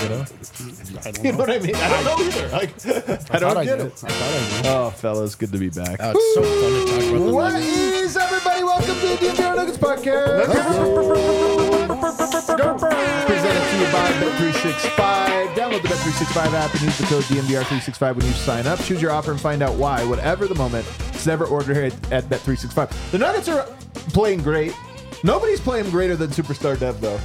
You know? You know what I mean? I don't know either. Like, I don't get it. Oh, fellas, good to be back. It's so fun to talk about the What Nuggets. is everybody? Welcome to the DNVR Nuggets podcast. Presented to you by Bet365. Download the Bet365 app and use the code DNVR365 when you sign up. Choose your offer and find out why. Whatever the moment, it's never ordered here at Bet365. The Nuggets are playing great. Nobody's playing greater than Superstar Dev, though.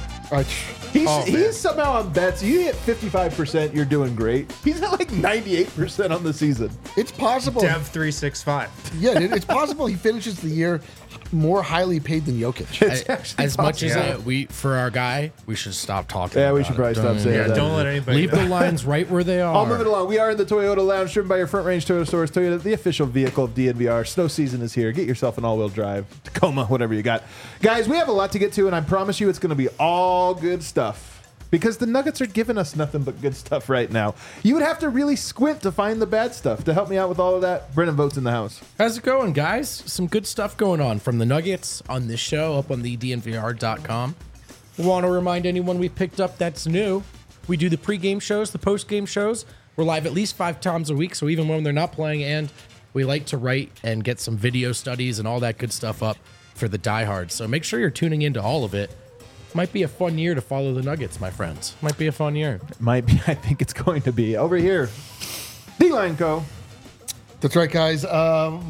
He's somehow on bets. You hit 55%, you're doing great. He's at like 98% on the season. It's possible. Dev 365. Yeah, dude, it's possible he finishes the year more highly paid than Jokic. It's actually As much as Yeah. we, for our guy, we should stop talking. Yeah, we about should it. probably stop saying Yeah, that. don't let anybody Leave the lines right where they are. I'll move it along. We are in the Toyota Lounge, driven by your Front Range Toyota stores. Toyota, the official vehicle of DNVR. Snow season is here. Get yourself an all-wheel drive, Tacoma, whatever you got. Guys, we have a lot to get to, and I promise you it's going to be all good stuff. Because the Nuggets are giving us nothing but good stuff right now. You would have to really squint to find the bad stuff. To help me out with all of that, Brennan Votes in the house. How's it going, guys? Some good stuff going on from the Nuggets on this show up on the DNVR.com. We want to remind anyone we picked up that's new. We do the pregame shows, the postgame shows. We're live at least 5 times a week, so even when they're not playing, and we like to write and get some video studies and all that good stuff up for the diehards. So make sure you're tuning into all of it. Might be a fun year to follow the Nuggets, my friends. Might be a fun year. Might be. I think it's going to be. Over here, D-Line Co. That's right, guys. I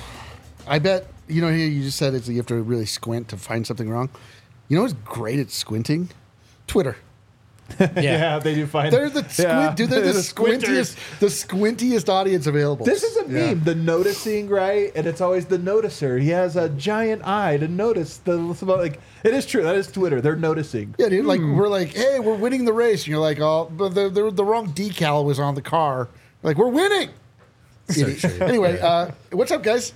bet, here you just said you have to really squint to find something wrong. You know what's great at squinting? Twitter. Yeah. They do find. They're the dude. They're the squintiest audience available. This is a meme, the noticing, right? And it's always the noticer. He has a giant eye to notice it is true. That is Twitter. They're noticing. Yeah, dude. Like we're like, hey, we're winning the race, and you're like, oh, but the wrong decal was on the car. Like we're winning. Anyway, what's up, guys?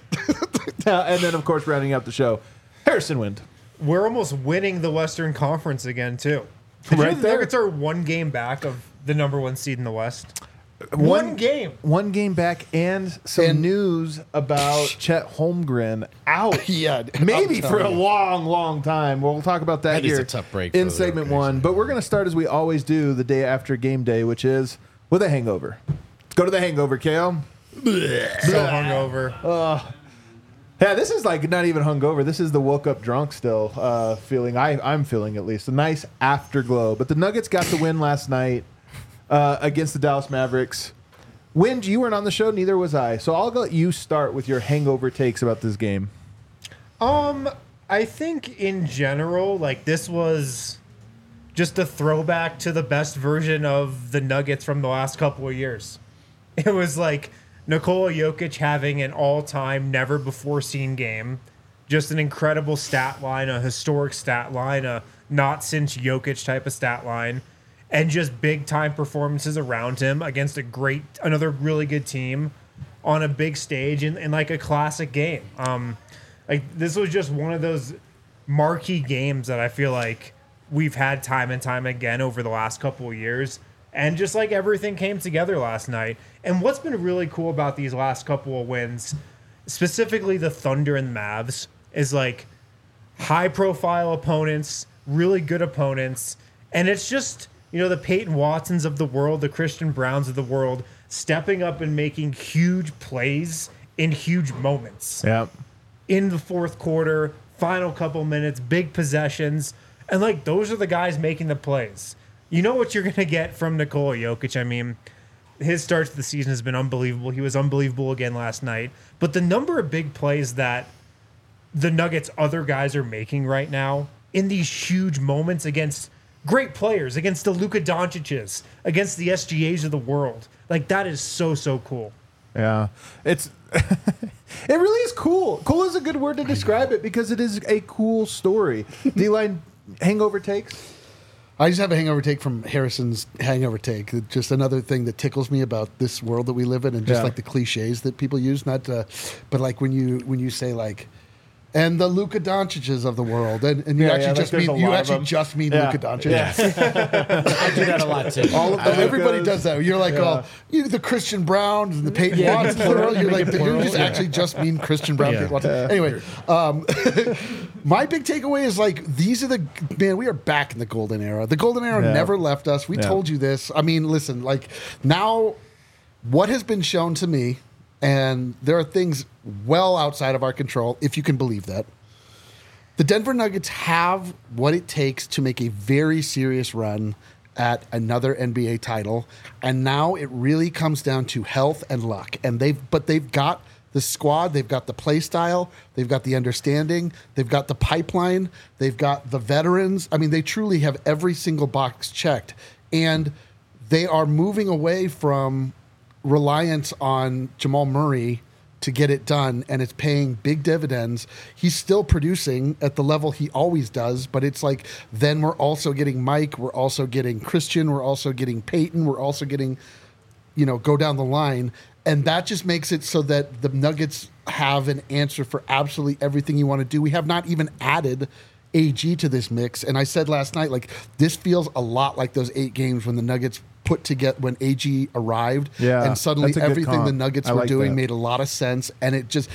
And then, of course, rounding out the show, Harrison Wind. We're almost winning the Western Conference again, too. Did you know the Nuggets are 1 game back of the number 1 seed in the West? One game. 1 game back, and some news about Chet Holmgren out. Yeah, maybe I'm for a telling you. long, long time. We'll talk about that That is here a tough break in for the segment rotation. 1. But we're going to start as we always do the day after game day, which is with a hangover. Let's go to the hangover, KO. So hungover. Yeah, this is like not even hungover. This is the woke up drunk still feeling. I'm feeling at least a nice afterglow. But the Nuggets got the win last night against the Dallas Mavericks. Wind, you weren't on the show, neither was I. So I'll let you start with your hangover takes about this game. I think in general, like this was just a throwback to the best version of the Nuggets from the last couple of years. It was like Nikola Jokic having an all-time, never-before-seen game. Just an incredible stat line, a historic stat line, a not-since-Jokic type of stat line, and just big-time performances around him against another really good team on a big stage in like a classic game. Like this was just one of those marquee games that I feel like we've had time and time again over the last couple of years. And just like everything came together last night. And what's been really cool about these last couple of wins, specifically the Thunder and Mavs, is like high profile opponents, really good opponents. And it's just, the Peyton Watsons of the world, the Christian Browns of the world, stepping up and making huge plays in huge moments. Yeah. In the fourth quarter, final couple minutes, big possessions. And like those are the guys making the plays. You know what you're going to get from Nikola Jokic. I mean, his start to the season has been unbelievable. He was unbelievable again last night. But the number of big plays that the Nuggets' other guys are making right now in these huge moments against great players, against the Luka Doncic's, against the SGAs of the world. Like, that is so, so cool. Yeah. It's it really is cool. Cool is a good word to describe it because it is a cool story. D-Line hangover takes? I just have a hangover take from Harrison's hangover take. Just another thing that tickles me about this world that we live in, and just like the cliches that people use. But like when you say like, and the Luka Doncic's of the world, and you Yeah, actually like just there's mean a you lot of actually them. just mean Yeah. Luka Doncic. Yeah. I do that a lot too. All of the Everybody Lukas. does that. You're like, oh, the Christian Browns and the Peyton Watsons. Plural. You're like, you just actually just mean Christian Brown. Yeah. Peyton Watson. Anyway, my big takeaway is like, these are we are back in the golden era. The golden era Yeah. never left us. We Yeah. told you this. I mean, listen, like now, what has been shown to me, and there are things well outside of our control, if you can believe that. The Denver Nuggets have what it takes to make a very serious run at another NBA title, and now it really comes down to health and luck. And they've got the squad, they've got the play style, they've got the understanding, they've got the pipeline, they've got the veterans. I mean, they truly have every single box checked, and they are moving away from reliance on Jamal Murray to get it done, and it's paying big dividends. He's still producing at the level he always does, but it's like then we're also getting Mike, we're also getting Christian, we're also getting Peyton, we're also getting, go down the line. And that just makes it so that the Nuggets have an answer for absolutely everything you want to do. We have not even added AG to this mix. And I said last night, like, this feels a lot like those 8 games when the Nuggets put together, when AG arried, Yeah, and suddenly that's a good everything comp. the Nuggets I were like doing that. made a lot of sense. And it just,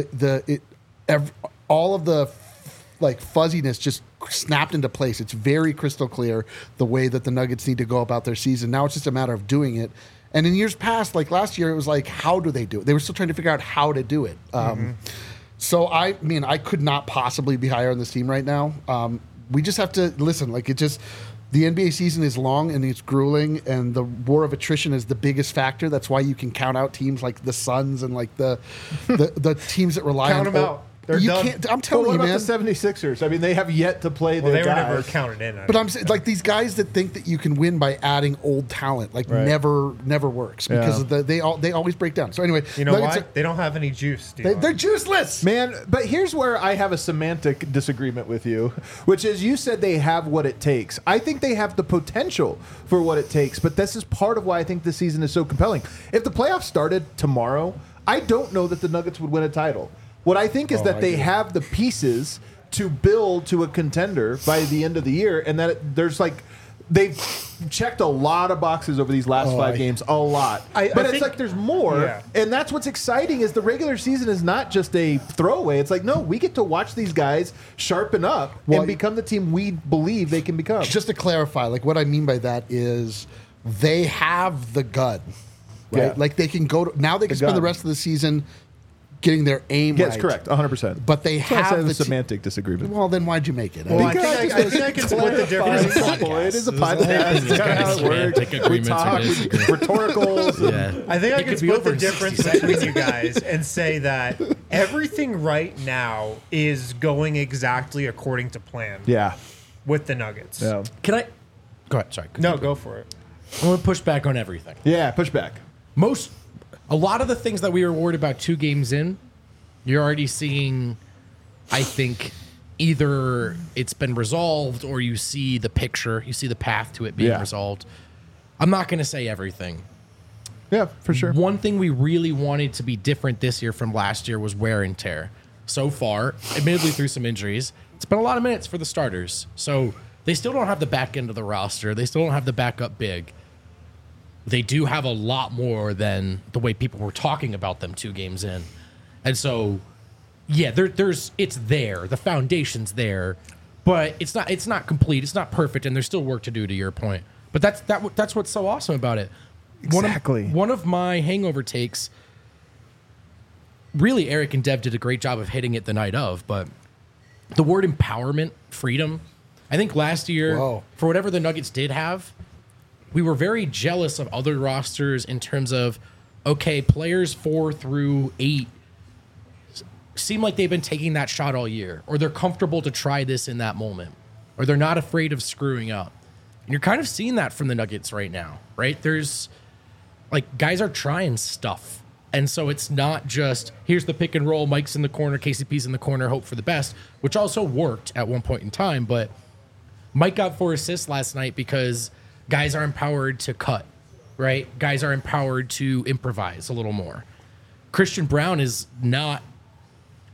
all of the like fuzziness just snapped into place. It's very crystal clear the way that the Nuggets need to go about their season. Now it's just a matter of doing it. And in years past, like last year, it was like, how do they do it? They were still trying to figure out how to do it. So I mean, I could not possibly be higher on this team right now. We just have to listen. Like the NBA season is long and it's grueling, and the war of attrition is the biggest factor. That's why you can count out teams like the Suns and like the teams that rely Count on. them out. They're you done. can't. I'm But telling what you, about man. the 76ers? I mean, they have yet to play Well, their they were guys. never counted in. But I'm saying, like these guys that think that you can win by adding old talent, like Right. never works because Yeah. of they always break down. So anyway, You know Nuggets why? They don't have any juice, dude. they're juiceless. Man, but here's where I have a semantic disagreement with you, which is you said they have what it takes. I think they have the potential for what it takes, but this is part of why I think this season is so compelling. If the playoffs started tomorrow, I don't know that the Nuggets would win a title. What I think is that they have the pieces to build to a contender by the end of the year, and that there's like they've checked a lot of boxes over these last 5 games, a lot. I But it's think- like there's more, Yeah. and that's what's exciting is the regular season is not just a throwaway. It's like, no, we get to watch these guys sharpen up Well, and become the team we believe they can become. Just to clarify, like what I mean by that is they have the gun, right? Yeah. Like they can go now. They can spend gun. the rest of the season getting their aim Yes, right. correct, 100%. But they That's why I have said the a semantic disagreement. Well, then why'd you make it? Well, I Because think I can split the difference. It is a podcast. It's kind of how it works. Semantic We agreements talk, or disagreements. rhetoricals. Yeah. I think I It can could be split the over in difference 60 between you guys and say that everything right now is going exactly according to plan Yeah. with the Nuggets. Yeah. Can I go ahead? Sorry. No, go for it. I'm going to push back on everything. Yeah, push back. A lot of the things that we were worried about 2 games in, you're already seeing, I think, either it's been resolved or you see the picture, you see the path to it being Yeah. resolved. I'm not going to say everything. Yeah, for sure. One thing we really wanted to be different this year from last year was wear and tear. So far, admittedly through some injuries, it's been a lot of minutes for the starters. So they still don't have the back end of the roster. They still don't have the backup big. They do have a lot more than the way people were talking about them 2 games in. And so, yeah, it's there. The foundation's there, but it's not complete. It's not perfect, and there's still work to do. To your point, but that's what's so awesome about it. Exactly. One of my hangover takes. Really, Eric and Dev did a great job of hitting it the night of, but the word empowerment, freedom. I think last year, Whoa. for whatever the Nuggets did have, we were very jealous of other rosters in terms of, okay, players 4 through 8 seem like they've been taking that shot all year, or they're comfortable to try this in that moment, or they're not afraid of screwing up. And you're kind of seeing that from the Nuggets right now, right? There's like guys are trying stuff. And so it's not just here's the pick and roll, Mike's in the corner, KCP's in the corner, hope for the best, which also worked at one point in time. But Mike got 4 assists last night because guys are empowered to cut, right? Guys are empowered to improvise a little more. Christian Brown is not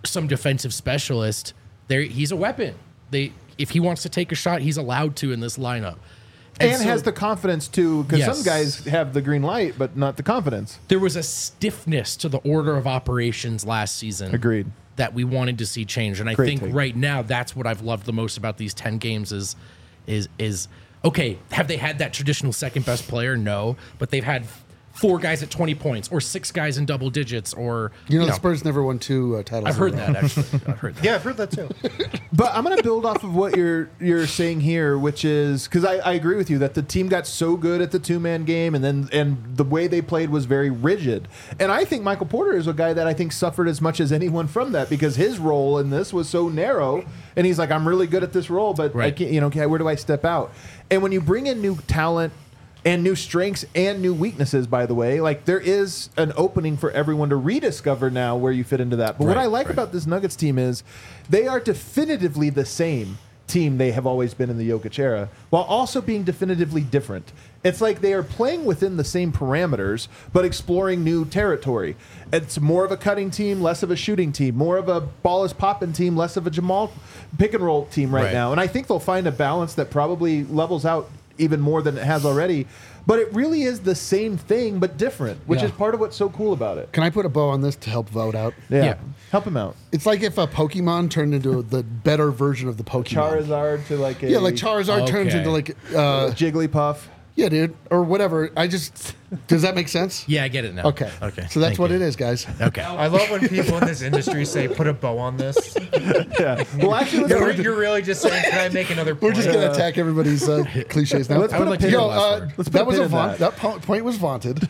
some defensive specialist, he's a weapon. If he wants to take a shot, he's allowed to in this lineup. And so has the confidence to, because Yes. some guys have the green light, but not the confidence. there was a stiffness to the order of operations last season. Agreed. That we wanted to see change. And I Great think take. right now that's what I've loved the most about these 10 games is okay, have they had that traditional second best player? No, but they've had 4 guys at 20 points or 6 guys in double digits or The Spurs never won 2 titles. I've heard in a row. that actually. I've heard that. Yeah, I've heard that too. But I'm going to build off of what you're saying here, which is because I agree with you that the team got so good at the 2-man game, and the way they played was very rigid. And I think Michael Porter is a guy that I think suffered as much as anyone from that because his role in this was so narrow. And he's like, I'm really good at this role, but I Right. can't, where do I step out? And when you bring in new talent and new strengths and new weaknesses, by the way, like there is an opening for everyone to rediscover now where you fit into that. But what Right, I like right. about this Nuggets team is they are definitively the same team they have always been in the Jokic era, while also being definitively different. It's like they are playing within the same parameters, but exploring new territory. It's more of a cutting team, less of a shooting team, more of a ball is popping team, less of a Jamal pick and roll team right Right. now. And I think they'll find a balance that probably levels out even more than it has already. But it really is the same thing, but different, which Yeah. is part of what's so cool about it. Can I put a bow on this to help vote out? Yeah. Help him out. It's like if a Pokemon turned into the better version of the Pokemon. Charizard to like a Yeah, like Charizard turns Okay. into like Jigglypuff. yeah, dude, or whatever. Does that make sense? Yeah, I get it now. Okay. Okay. So that's Thank what you. it is, guys. Okay. I love when people in this industry say, put a bow on this. Yeah. Well, actually, You're really just saying, can I make another We're point? just gonna attack everybody's cliches now. Let's put a pin Yo, in that. Let's put that a was pin a in vaunt. that. That point was vaunted.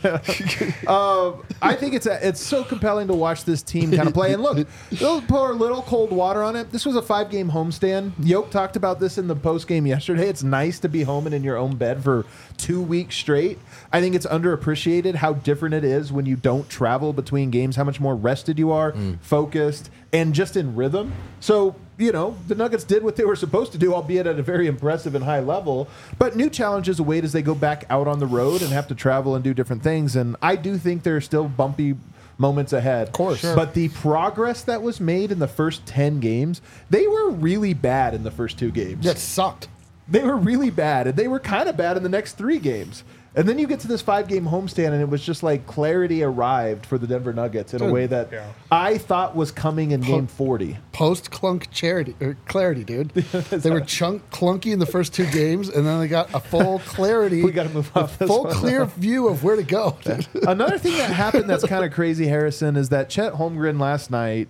I think it's so compelling to watch this team kind of play. And look, they'll pour a little cold water on it. This was a 5-game homestand. Yoke talked about this in the post game yesterday. It's nice to be home and in your own bed for 2 weeks straight. I think it's underappreciated how different it is when you don't travel between games, how much more rested you are, focused, and just in rhythm. So, the Nuggets did what they were supposed to do, albeit at a very impressive and high level. But new challenges await as they go back out on the road and have to travel and do different things. And I do think there are still bumpy moments ahead. Of course. Sure. But the progress that was made in the first 10 games, they were really bad in the first 2 games. That sucked. They were really bad, and they were kind of bad in the next 3 games. And then you get to this 5-game homestand, and it was just like clarity arrived for the Denver Nuggets in a way that I thought was coming in game 40. Post clunk clarity, dude. They were clunky in the first 2 games, and then they got a full clarity. We gotta move off this full one. clear view of where to go. Dude. Another thing that happened that's kind of crazy, Harrison, is that Chet Holmgren last night,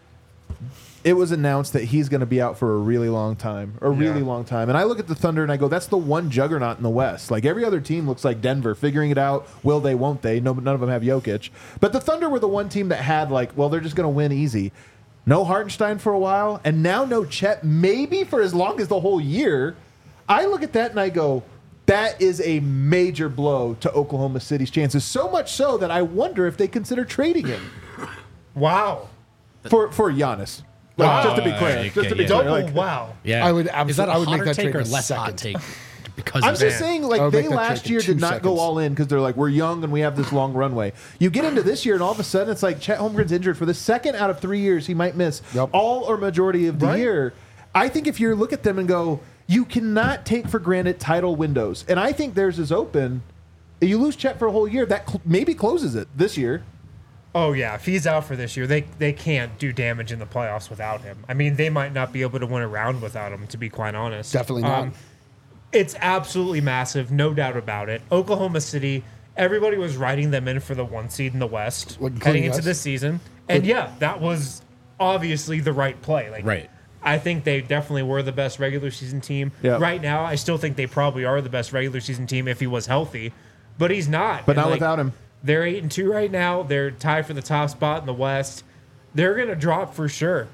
it was announced that he's going to be out for a really long time. And I look at the Thunder and I go, that's the one juggernaut in the West. Like every other team looks like Denver, figuring it out. Will they, won't they? No, none of them have Jokic. But the Thunder were the one team that had they're just going to win easy. No Hartenstein for a while, and now no Chet, maybe for as long as the whole year. I look at that and I go, that is a major blow to Oklahoma City's chances. So much so that I wonder if they consider trading him Wow. for Giannis. Wow. Just to be clear. Okay, Just to be yeah. clear. Double wow. Yeah. I would Is that a I would make hotter that take trade or in a less hot second. take? Because I'm of just that. saying, I would they make that last trade in year 2 did not go seconds. all in because they're like, we're young and we have this long runway. You get into this year, and all of a sudden, it's like Chet Holmgren's injured for the second out of 3 years. He might miss all or majority of the Right. year. I think if you look at them and go, you cannot take for granted title windows. And I think theirs is open. You lose Chet for a whole year, that maybe closes it this year. Oh yeah, if he's out for this year, they can't do damage in the playoffs without him. I mean, they might not be able to win a round without him, to be quite honest. Definitely not. It's absolutely massive, no doubt about it. Oklahoma City, everybody was writing them in for the 1 seed in the West Including heading into us. this season, and yeah, that was obviously the right play. Right. I think they definitely were the best regular season team. Yeah. Right now, I still think they probably are the best regular season team if he was healthy, but he's not. But And, not without him. They're 8-2 right now. They're tied for the top spot in the West. They're gonna drop for sure.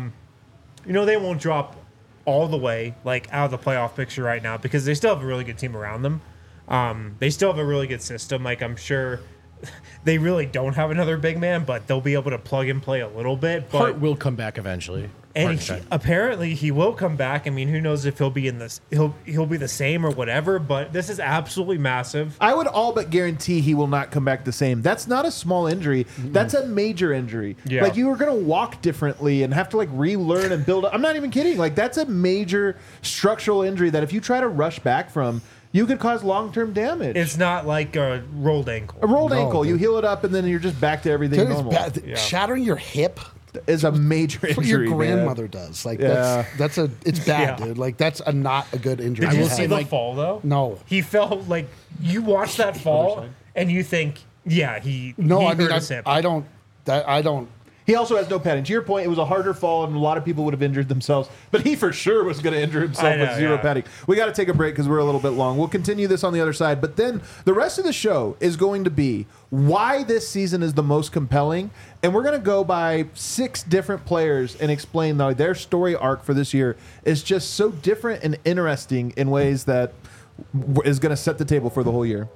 They won't drop all the way out of the playoff picture right now because they still have a really good team around them. They still have a really good system. I'm sure they really don't have another big man, but they'll be able to plug and play a little bit. But Hart will come back eventually. And apparently he will come back. I mean, who knows if he'll be in this? He'll be the same or whatever. But this is absolutely massive. I would all but guarantee he will not come back the same. That's not a small injury. That's a major injury. Yeah. Like, you are going to walk differently and have to like relearn and build up. I'm not even kidding. Like, that's a major structural injury that if you try to rush back from, you could cause long-term damage. It's not like a rolled ankle. A rolled No, ankle. dude. You heal it up and then you're just back to everything Dude, it's normal. bad. Shattering your hip. Is a major That's injury. what your man. grandmother does. Like Yeah. it's bad, Yeah. dude. Like that's not a good injury. Did to you have. see the fall though? No. He felt like you watch that fall and you think, yeah, he No, he I mean hurt his hip. I don't. He also has no padding. To your point, it was a harder fall, and a lot of people would have injured themselves. But he for sure was going to injure himself I know, with zero yeah. padding. We got to take a break because we're a little bit long. We'll continue this on the other side. But then the rest of the show is going to be why this season is the most compelling. And we're going to go by 6 different players and explain how their story arc for this year is just so different and interesting in ways that is going to set the table for the whole year.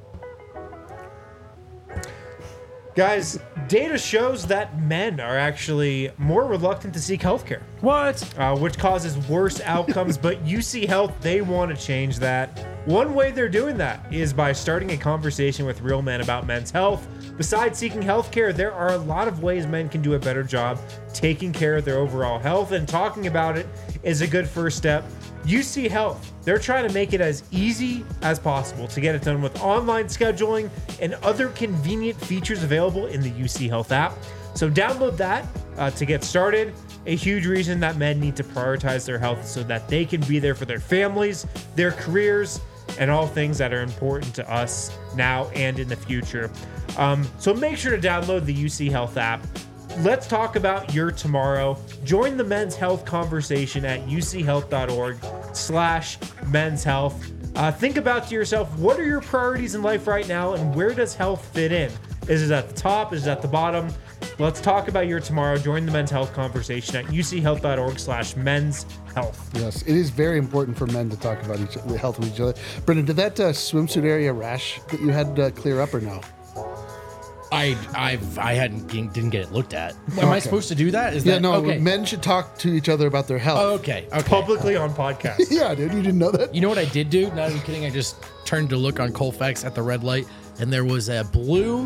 Guys, data shows that men are actually more reluctant to seek healthcare. What? Which causes worse outcomes, but UC Health, they want to change that. One way they're doing that is by starting a conversation with real men about men's health. Besides seeking healthcare, there are a lot of ways men can do a better job taking care of their overall health, and talking about it is a good first step. UC Health, they're trying to make it as easy as possible to get it done with online scheduling and other convenient features available in the UC Health app. So download that to get started. A huge reason that men need to prioritize their health so that they can be there for their families, their careers, and all things that are important to us now and in the future. So make sure to download the UC Health app. Let's talk about your tomorrow. Join the men's health conversation at uchealth.org/men's health. Think about to yourself, what are your priorities in life right now, and where does health fit in? Is it at the top? Is it at the bottom? Let's talk about your tomorrow. Join the men's health conversation at uchealth.org/men's health. Yes, it is very important for men to talk about the health of each other. Brendan, did that swimsuit area rash that you had clear up or no? I didn't get it looked at. Am I supposed to do that? Is Yeah, that no. okay? Men should talk to each other about their health. Okay. Publicly on podcasts. Yeah, dude, you didn't know that? You know what I did do? Not even kidding. I just turned to look on Colfax at the red light, and there was a blue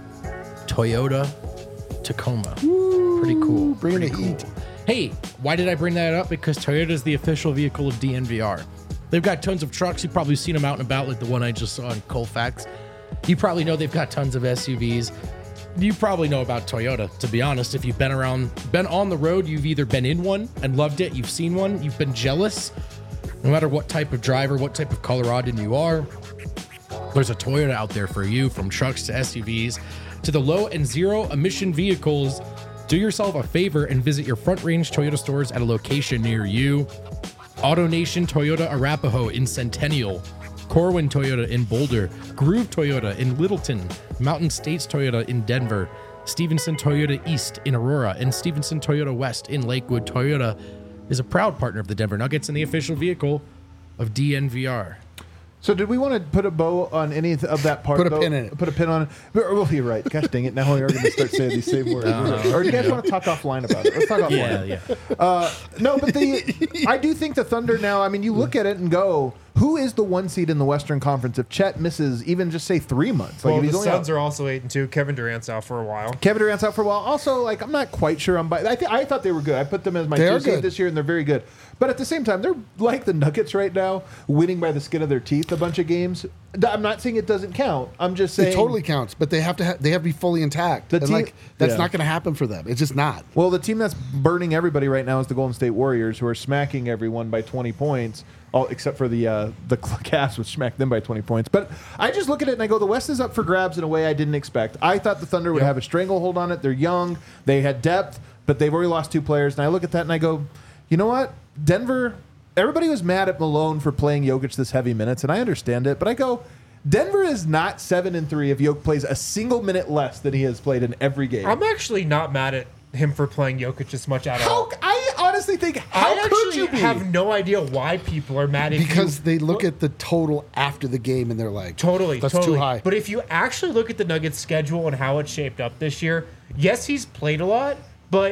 Toyota Tacoma. Pretty cool. Bringing Pretty the heat. Hey, why did I bring that up? Because Toyota is the official vehicle of DNVR. They've got tons of trucks. You've probably seen them out and about, like the one I just saw in Colfax. You probably know they've got tons of SUVs. You probably know about Toyota, to be honest. If you've been on the road, you've either been in one and loved it, you've seen one, you've been jealous. No matter what type of driver, what type of Coloradan you are, there's a Toyota out there for you, from trucks to SUVs to the low and zero emission vehicles. Do yourself a favor and visit your Front Range Toyota stores at a location near you. AutoNation Toyota Arapahoe in Centennial, Corwin Toyota in Boulder, Groove Toyota in Littleton, Mountain States Toyota in Denver, Stevenson Toyota East in Aurora, and Stevenson Toyota West in Lakewood. Toyota is a proud partner of the Denver Nuggets and the official vehicle of DNVR. So did we want to put a bow on any of that part? Put a though? pin in it. Put a pin on it. Well, you're right. Gosh dang it. Now we are going to start saying these same words. Or do you guys want to talk offline about it? Let's talk offline. Yeah. No, but I do think the Thunder now, I mean, you look at it and go, who is the 1 seed in the Western Conference if Chet misses even just say 3 months? Well, if he's the only Suns out- are also 8-2. Kevin Durant's out for a while. Kevin Durant's out for a while. Also, like, I'm not quite sure. I thought they were good. I put them as my They 2 are seed good. this year, and they're very good. But at the same time, they're like the Nuggets right now, winning by the skin of their teeth a bunch of games. I'm not saying it doesn't count. I'm just saying It totally counts, but they have to be fully intact. The And, team- like that's yeah. not going to happen for them. It's just not. Well, the team that's burning everybody right now is the Golden State Warriors, who are smacking everyone by 20 points, all except for the Cavs, which smacked them by 20 points. But I just look at it and I go, the West is up for grabs in a way I didn't expect. I thought the Thunder would have a stranglehold on it. They're young, they had depth, but they've already lost 2 players. And I look at that and I go, you know what? Denver, everybody was mad at Malone for playing Jokic this heavy minutes, and I understand it, but I go, Denver is not 7-3 if Jokic plays a single minute less than he has played in every game. I'm actually not mad at him for playing Jokic as much at all. I honestly think, I how could you actually be? have no idea why people are mad at Because they look at the total after the game and they're like, Totally, that's totally. too high. But if you actually look at the Nuggets' schedule and how it's shaped up this year, yes, he's played a lot, but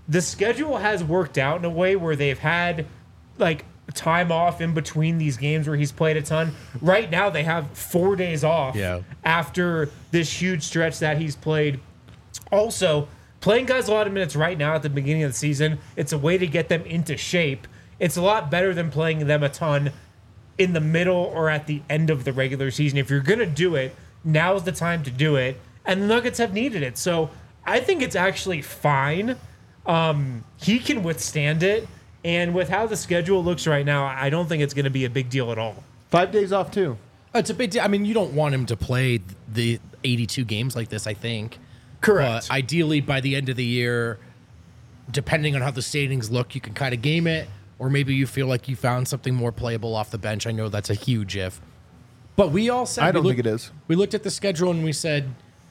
the schedule has worked out in a way where they've had like time off in between these games where he's played a ton. Right now they have 4 days off after this huge stretch that he's played. Also, playing guys a lot of minutes right now at the beginning of the season, it's a way to get them into shape. It's a lot better than playing them a ton in the middle or at the end of the regular season. If you're going to do it, now's the time to do it. And the Nuggets have needed it. So I think it's actually fine. He can withstand it. And with how the schedule looks right now, I don't think it's going to be a big deal at all. 5 days off, too. It's a big deal. I mean, you don't want him to play the 82 games like this, I think. Correct. But ideally, by the end of the year, depending on how the standings look, you can kind of game it. Or maybe you feel like you found something more playable off the bench. I know that's a huge if. But we all said... I don't think it is. We looked at the schedule and we said,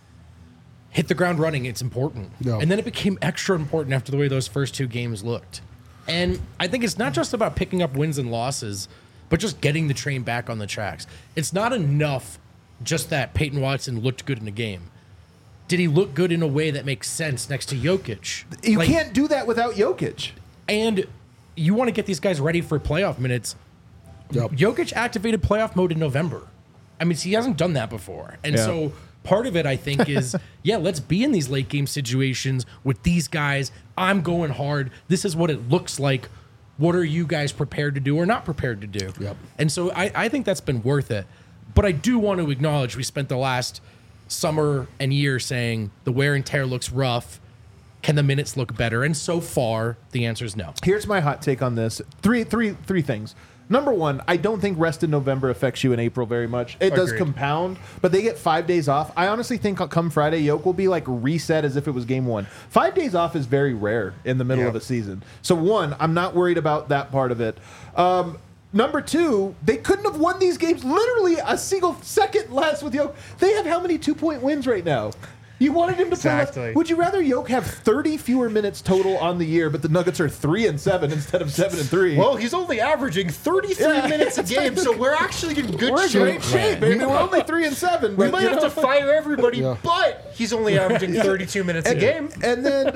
hit the ground running. It's important. No. And then it became extra important after the way those first 2 games looked. And I think it's not just about picking up wins and losses, but just getting the train back on the tracks. It's not enough just that Peyton Watson looked good in the game. Did he look good in a way that makes sense next to Jokic? You can't do that without Jokic. And you want to get these guys ready for playoff minutes. Yep. Jokic activated playoff mode in November. I mean, he hasn't done that before. And so part of it, I think, is, let's be in these late game situations with these guys. I'm going hard. This is what it looks like. What are you guys prepared to do or not prepared to do? Yep. And so I think that's been worth it. But I do want to acknowledge we spent the last summer and year saying the wear and tear looks rough. Can the minutes look better? And so far, the answer is no. Here's my hot take on this. Three things. Number one, I don't think rest in November affects you in April very much. It does compound, but they get 5 days off. I honestly think come Friday, Yoke will be like reset as if it was game 1. 5 days off is very rare in the middle of a season. So one, I'm not worried about that part of it. Number two, they couldn't have won these games literally a single second less with Yoke. They have how many 2-point wins right now? You wanted him to play less. Would you rather Yoke have 30 fewer minutes total on the year, but the Nuggets are 3-7 instead of 7-3? Well, he's only averaging 33 minutes a game, so we're actually in good shape. We're in great shape, baby. We're only 3-7. We might have to fire everybody, but he's only averaging 32 minutes a game. And then,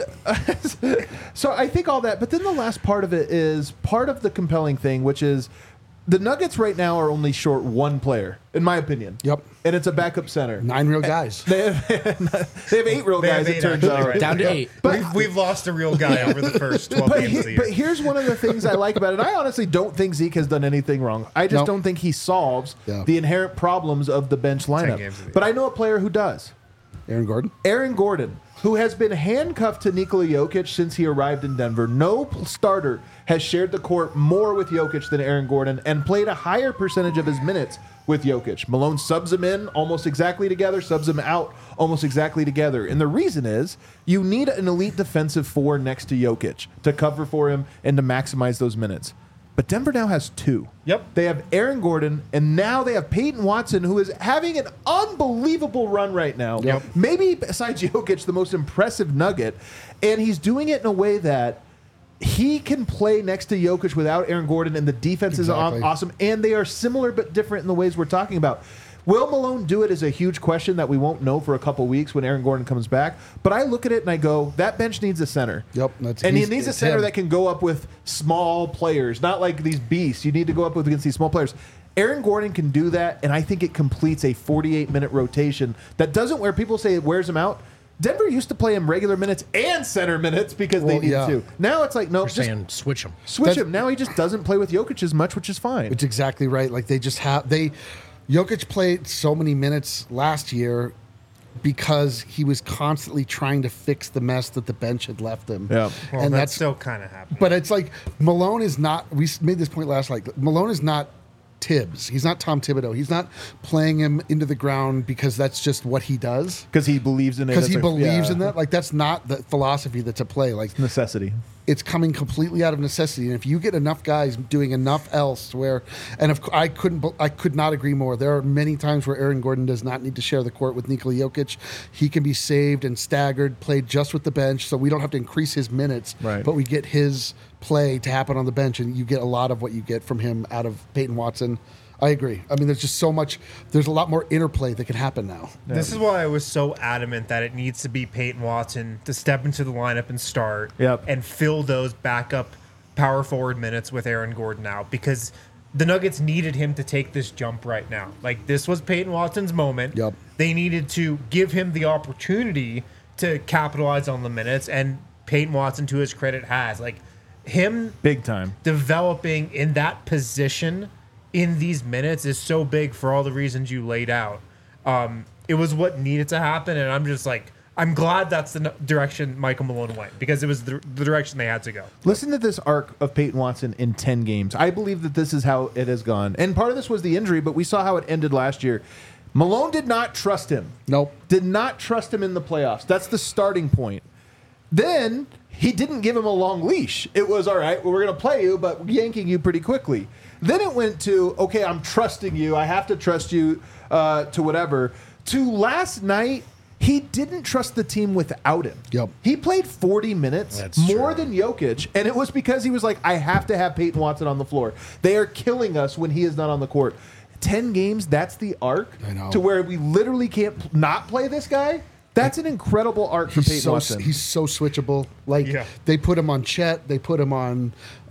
so I think all that, but then the last part of it is part of the compelling thing, which is the Nuggets right now are only short one player, in my opinion. Yep. And it's a backup center. 9 real guys. They have 8 real guys, it turns out. Right. Down to 8. But we've lost a real guy over the first 12 games of the year. But here's one of the things I like about it. I honestly don't think Zeke has done anything wrong. I just don't think he solves the inherent problems of the bench lineup. But I know a player who does. Aaron Gordon. Aaron Gordon, who has been handcuffed to Nikola Jokic since he arrived in Denver. No starter has shared the court more with Jokic than Aaron Gordon and played a higher percentage of his minutes with Jokic. Malone subs him in almost exactly together, subs him out almost exactly together. And the reason is you need an elite defensive 4 next to Jokic to cover for him and to maximize those minutes. But Denver now has 2. Yep. They have Aaron Gordon, and now they have Peyton Watson, who is having an unbelievable run right now. Yep. Maybe, besides Jokic, the most impressive Nugget. And he's doing it in a way that he can play next to Jokic without Aaron Gordon, and the defense is awesome. And they are similar but different in the ways we're talking about. Will Malone do it is a huge question that we won't know for a couple weeks when Aaron Gordon comes back. But I look at it and I go, that bench needs a center. Yep. And he needs a center that can go up with small players, not like these beasts. You need to go up against these small players. Aaron Gordon can do that, and I think it completes a 48-minute rotation that doesn't where people say it wears him out. Denver used to play him regular minutes and center minutes because they need to. Now it's like, no, You're saying switch him. Switch him. Now he just doesn't play with Jokic as much, which is fine. It's exactly right. Like they just have Jokic played so many minutes last year because he was constantly trying to fix the mess that the bench had left him. Yeah. Well, and that's still kind of happening. But it's like Malone is not. We made this point last night. Malone is not Tibbs. He's not Tom Thibodeau. He's not playing him into the ground because that's just what he does. Because he believes in it. Because he believes in that. Like that's not the philosophy that's at play. Like necessity. It's coming completely out of necessity, and if you get enough guys doing enough elsewhere, and I could not agree more. There are many times where Aaron Gordon does not need to share the court with Nikola Jokic. He can be saved and staggered, played just with the bench, so we don't have to increase his minutes, but we get his play to happen on the bench, and you get a lot of what you get from him out of Peyton Watson. I agree. I mean, there's just so much. There's a lot more interplay that can happen now. This is why I was so adamant that it needs to be Peyton Watson to step into the lineup and start and fill those backup power forward minutes with Aaron Gordon out, because the Nuggets needed him to take this jump right now. Like, this was Peyton Watson's moment. Yep. They needed to give him the opportunity to capitalize on the minutes, and Peyton Watson, to his credit, has. Like, him Big time. developing in that position in these minutes is so big for all the reasons you laid out. It was what needed to happen, and I'm just like, I'm glad that's the direction Michael Malone went, because it was the direction they had to go. Listen to this arc of Peyton Watson in 10 games. I believe that this is how it has gone. And part of this was the injury, but we saw how it ended last year. Malone did not trust him. Nope. Did not trust him in the playoffs. That's the starting point. Then he didn't give him a long leash. It was, all right, well, we're going to play you, but yanking you pretty quickly. Then it went to, okay, I'm trusting you. I have to trust you to whatever. To last night, he didn't trust the team without him. Yep. He played 40 minutes, That's more true. than Jokic, and it was because he was like, I have to have Peyton Watson on the floor. They are killing us when he is not on the court. 10 games, that's the arc I know. to where we literally can't not play this guy. That's an incredible arc for Peyton Watson. He's so switchable. Like, Yeah. they put him on Chet, they put him on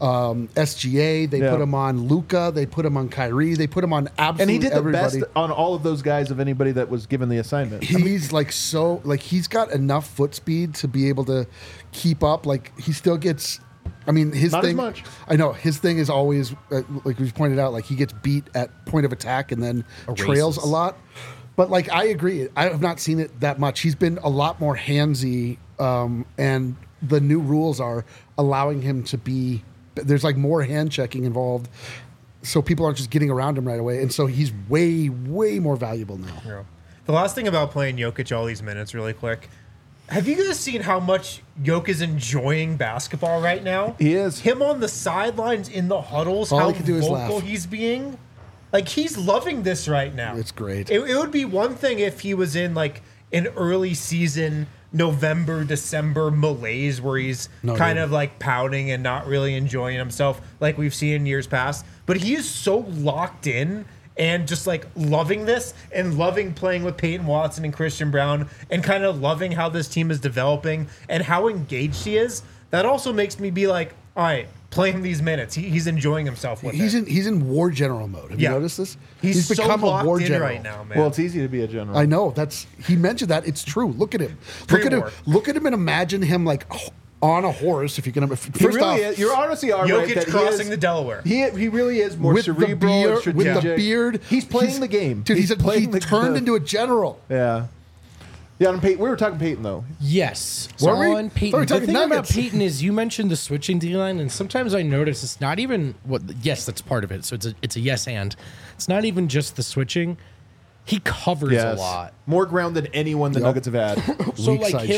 SGA, they Yeah. put him on Luka, they put him on Kyrie, they put him on absolutely And he did the everybody. best on all of those guys of anybody that was given the assignment. He's he's got enough foot speed to be able to keep up. Like, he still gets. I mean, his Not as thing. much. I know his thing is always like we pointed out. Like, he gets beat at point of attack and then trails a lot. But like, I agree. I have not seen it that much. He's been a lot more handsy, and the new rules are allowing him to be. There's like more hand checking involved, so people aren't just getting around him right away, and so he's way more valuable now. Yeah. The last thing about playing Jokic all these minutes, really quick. Have you guys seen how much Jokic is enjoying basketball right now? He is. Him on the sidelines in the huddles, All how he can do is vocal laugh. he's being. Like, he's loving this right now. It's great. It would be one thing if he was in like an early season November, December malaise where he's kind of like pouting and not really enjoying himself like we've seen in years past. But he is so locked in and just like loving this and loving playing with Peyton Watson and Christian Brown and kind of loving how this team is developing and how engaged he is. That also makes me be like, all right, play him these minutes. He's enjoying himself with it. He's in war general mode. Have you noticed this? He's become so a war locked in general right now, man. Well, it's easy to be a general. I know he mentioned that. It's true. Look at him. Look at him. Pre-war. Look at him and imagine him like on a horse. If you can, He first really off, is. You're honestly all right. Jokic that he crossing is- the Delaware. He really is more with the cerebral and beard, strategic. with the beard, He's playing the game. dude. He playing turned into a general. Yeah. Yeah, on Peyton, we were talking Peyton though. Yes. Were we? On Peyton. Thought we were The talking thing about Nuggets. Peyton is you mentioned the switching D line, and sometimes I notice it's not even what. Yes, that's part of it. So it's a yes and. It's not even just the switching. He covers a lot. More ground than anyone the Yep. Nuggets have had. So Weak like side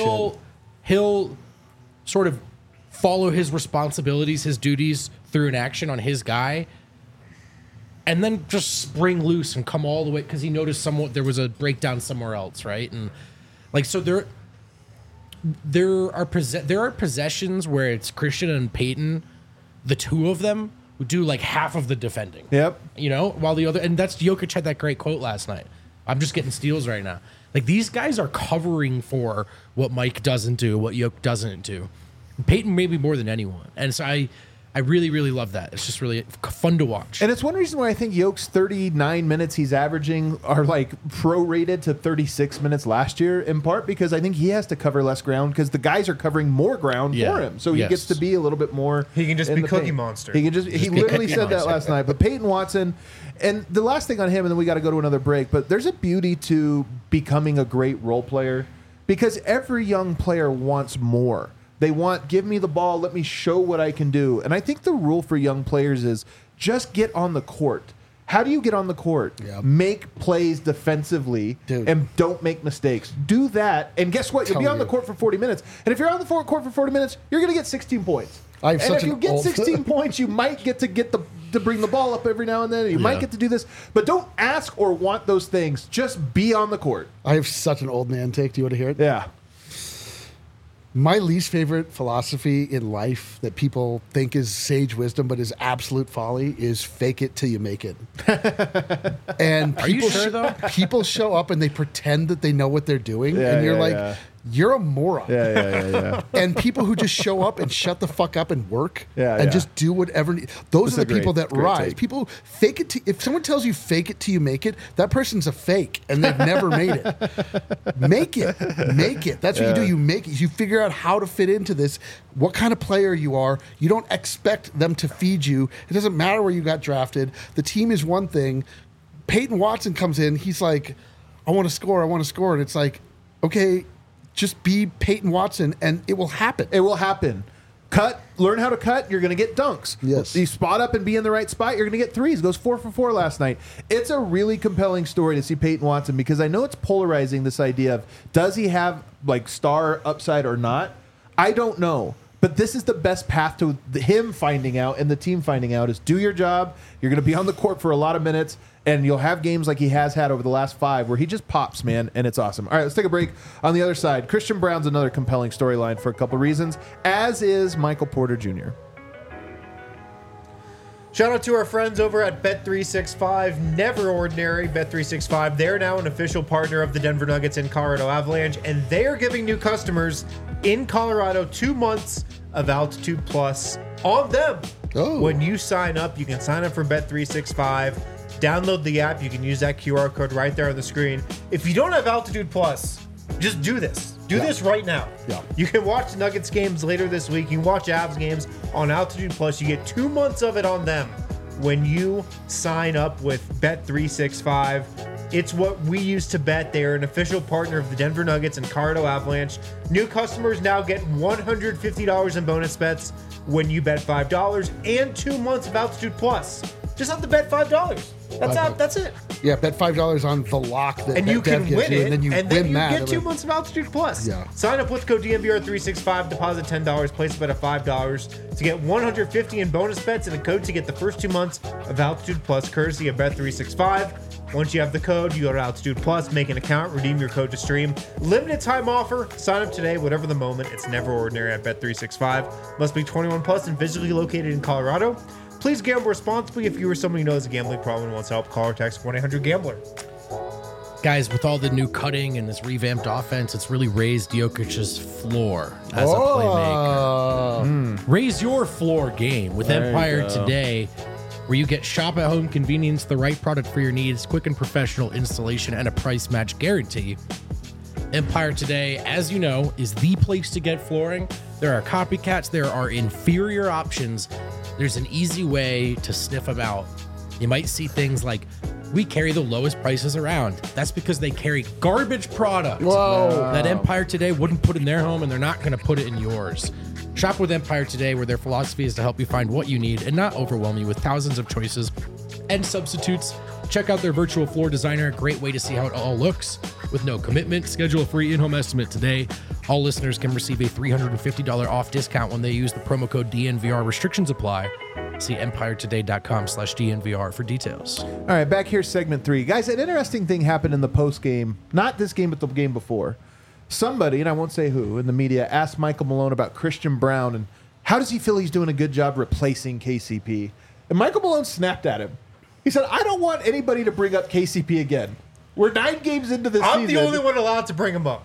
he'll sort of follow his responsibilities, his duties through an action on his guy, and then just spring loose and come all the way because he noticed there was a breakdown somewhere else, right? And like so there are possessions where it's Christian and Peyton, the two of them who do like half of the defending. Yep. You know, while the other, and that's Jokic had that great quote last night. I'm just getting steals right now. Like these guys are covering for what Mike doesn't do, what Jokic doesn't do. Peyton maybe more than anyone, and so I really, really love that. It's just really fun to watch. And it's one reason why I think Yoke's 39 minutes he's averaging are like prorated to 36 minutes last year, in part because I think he has to cover less ground because the guys are covering more ground Yeah. for him. So he Yes. gets to be a little bit more. He can just in be the Cookie paint. Monster. He can just he be literally Cookie said that Monster. last night. But Peyton Watson, and the last thing on him, and then we got to go to another break. But there's a beauty to becoming a great role player because every young player wants more. They want, give me the ball, let me show what I can do. And I think the rule for young players is just get on the court. How do you get on the court? Yep. Make plays defensively Dude. and don't make mistakes. Do that, and guess what? You'll be Tell on the you. court for 40 minutes. And if you're on the court for 40 minutes, you're going to get 16 points. I have and such if you an get old- 16 points, you might get to bring the ball up every now and then. You might Yeah. get to do this, but don't ask or want those things. Just be on the court. I have such an old man take. Do you want to hear it? Yeah. My least favorite philosophy in life that people think is sage wisdom but is absolute folly is fake it till you make it. And Are you sure, though? people show up and they pretend that they know what they're doing, and you're you're a moron. Yeah. And people who just show up and shut the fuck up and work Yeah. just do whatever. Those That's are a the people great- that great rise. take. People fake it. If someone tells you fake it till you make it, that person's a fake and they've never made it. Make it. That's what you do. You make it. You figure out how to fit into this, what kind of player you are. You don't expect them to feed you. It doesn't matter where you got drafted. The team is one thing. Peyton Watson comes in. He's like, I want to score. And it's like, okay, just be Peyton Watson and it will happen. It will happen. Learn how to cut, you're going to get dunks. Yes. You spot up and be in the right spot, you're going to get threes. Goes 4 for 4 last night. It's a really compelling story to see Peyton Watson because I know it's polarizing, this idea of does he have like star upside or not? I don't know. But this is the best path to him finding out and the team finding out is do your job. You're going to be on the court for a lot of minutes, and you'll have games like he has had over the last 5 where he just pops, man, and it's awesome. All right, let's take a break. On the other side, Christian Brown's another compelling storyline for a couple reasons, as is Michael Porter Jr. Shout out to our friends over at Bet365. Never ordinary. Bet365. They're now an official partner of the Denver Nuggets and Colorado Avalanche, and they are giving new customers in Colorado 2 months of Altitude Plus on them. Oh. When you sign up, you can sign up for Bet365. Download the app. You can use that QR code right there on the screen. If you don't have Altitude Plus, just do this. Do this right now. Yeah. You can watch Nuggets games later this week. You can watch Avs games on Altitude Plus. You get 2 months of it on them when you sign up with Bet365. It's what we use to bet. They are an official partner of the Denver Nuggets and Colorado Avalanche. New customers now get $150 in bonus bets when you bet $5 and 2 months of Altitude Plus. Just have to bet $5. That's it. Yeah, bet $5 on the lock that And you BetDev can gives win you, it, and then you win that. get 2 months of Altitude Plus. Yeah. Sign up with code DNVR365, deposit $10, place a bet of $5 to get $150 in bonus bets and a code to get the first 2 months of Altitude Plus, courtesy of Bet365. Once you have the code, you go to Altitude Plus, make an account, redeem your code to stream. Limited time offer. Sign up today, whatever the moment. It's never ordinary at Bet365. Must be 21 plus and physically located in Colorado. Please gamble responsibly. If you or someone you know has a gambling problem and wants help, call or text 1-800-GAMBLER. Guys, with all the new cutting and this revamped offense, it's really raised Jokic's floor as a playmaker. Raise your floor game with Empire Today, where you get shop at home convenience, the right product for your needs, quick and professional installation, and a price match guarantee. Empire Today, as you know, is the place to get flooring. There are copycats, there are inferior options. There's an easy way to sniff them out. You might see things like, we carry the lowest prices around. That's because they carry garbage product that Empire Today wouldn't put in their home, and they're not going to put it in yours. Shop with Empire Today, where their philosophy is to help you find what you need and not overwhelm you with thousands of choices and substitutes. Check out their virtual floor designer, a great way to see how it all looks. With no commitment, schedule a free in-home estimate today. All listeners can receive a $350 off discount when they use the promo code DNVR. Restrictions apply. See empiretoday.com/DNVR for details. All right, back here, segment 3. Guys, an interesting thing happened in the post game, not this game, but the game before. Somebody, and I won't say who, in the media asked Michael Malone about Christian Brown and how does he feel he's doing a good job replacing KCP? And Michael Malone snapped at him. He said, I don't want anybody to bring up KCP again. We're 9 games into this season. I'm the only one allowed to bring him up.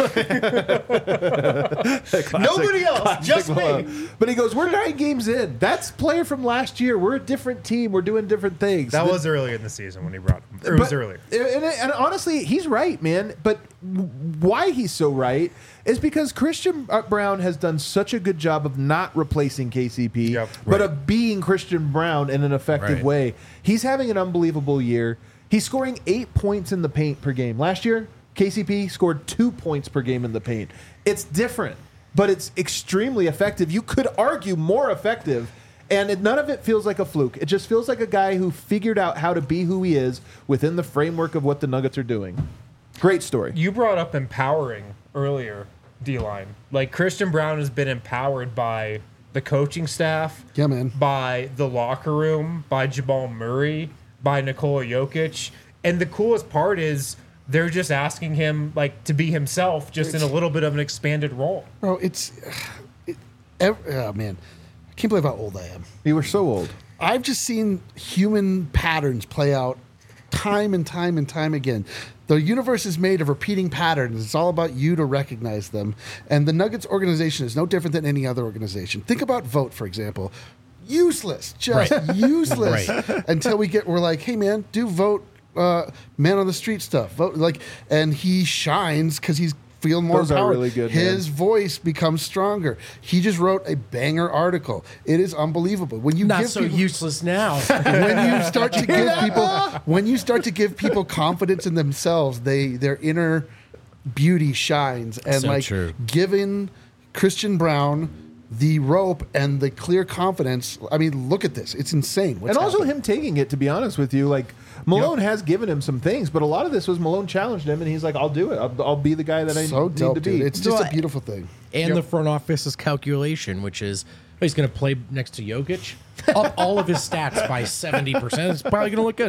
Nobody else, just me. But he goes, we're 9 games in. That's player from last year. We're a different team. We're doing different things. That was earlier in the season when he brought him. It was earlier. And honestly, he's right, man. But why he's so right is because Christian Brown has done such a good job of not replacing KCP, but of being Christian Brown in an effective way. He's having an unbelievable year. He's scoring 8 points in the paint per game. Last year, KCP scored 2 points per game in the paint. It's different, but it's extremely effective. You could argue more effective, and none of it feels like a fluke. It just feels like a guy who figured out how to be who he is within the framework of what the Nuggets are doing. Great story. You brought up empowering earlier, D-Line. Like, Christian Brown has been empowered by the coaching staff, by the locker room, by Jamal Murray, by Nikola Jokic. And the coolest part is they're just asking him like to be himself, just in a little bit of an expanded role. Bro, oh man, I can't believe how old I am. You were so old. I've just seen human patterns play out time and time and time again. The universe is made of repeating patterns. It's all about you to recognize them. And the Nuggets organization is no different than any other organization. Think about Vote, for example. Useless, just useless. Until we're like, hey man, do Vote, man on the street stuff. Vote and he shines because he's feeling more Those are empowered. really good, His man. voice becomes stronger. He just wrote a banger article. It is unbelievable. When you Not give so people, useless now. when you start to give people confidence in themselves, their inner beauty shines. And So true. giving Christian Brown the rope and the clear confidence. I mean, look at this. It's insane. What's And also happening. him taking it, to be honest with you, like Malone has given him some things, but a lot of this was Malone challenged him, and he's like, "I'll do it. I'll be the guy that I so need dope, to be." dude. It's just No, a beautiful thing. And the front office's calculation, which is he's going to play next to Jokic, up all of his stats by 70%. It's probably going to look good.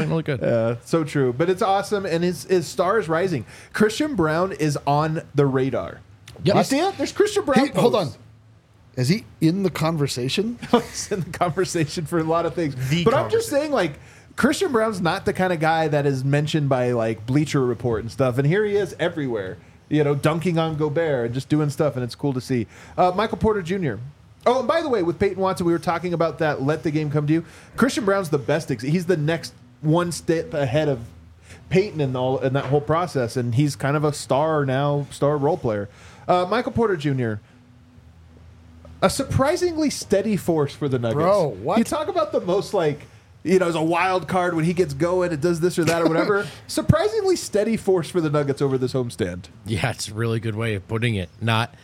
So true, but it's awesome, and his star is rising. Christian Brown is on the radar. Yep. You see it? There's Christian Brown. Hey, hold on. posts. Is he in the conversation? He's in the conversation for a lot of things. The But I'm just saying, like, Christian Brown's not the kind of guy that is mentioned by like Bleacher Report and stuff, and here he is everywhere. Dunking on Gobert and just doing stuff, and it's cool to see. Michael Porter Jr. Oh, and by the way, with Peyton Watson, we were talking about that. Let the game come to you. Christian Brown's the best. He's the next one step ahead of Peyton in that whole process, and he's kind of a star role player. Michael Porter Jr. A surprisingly steady force for the Nuggets. Bro, what? You talk about the most as a wild card when he gets going, it does this or that or whatever. Surprisingly steady force for the Nuggets over this homestand. Yeah, it's a really good way of putting it.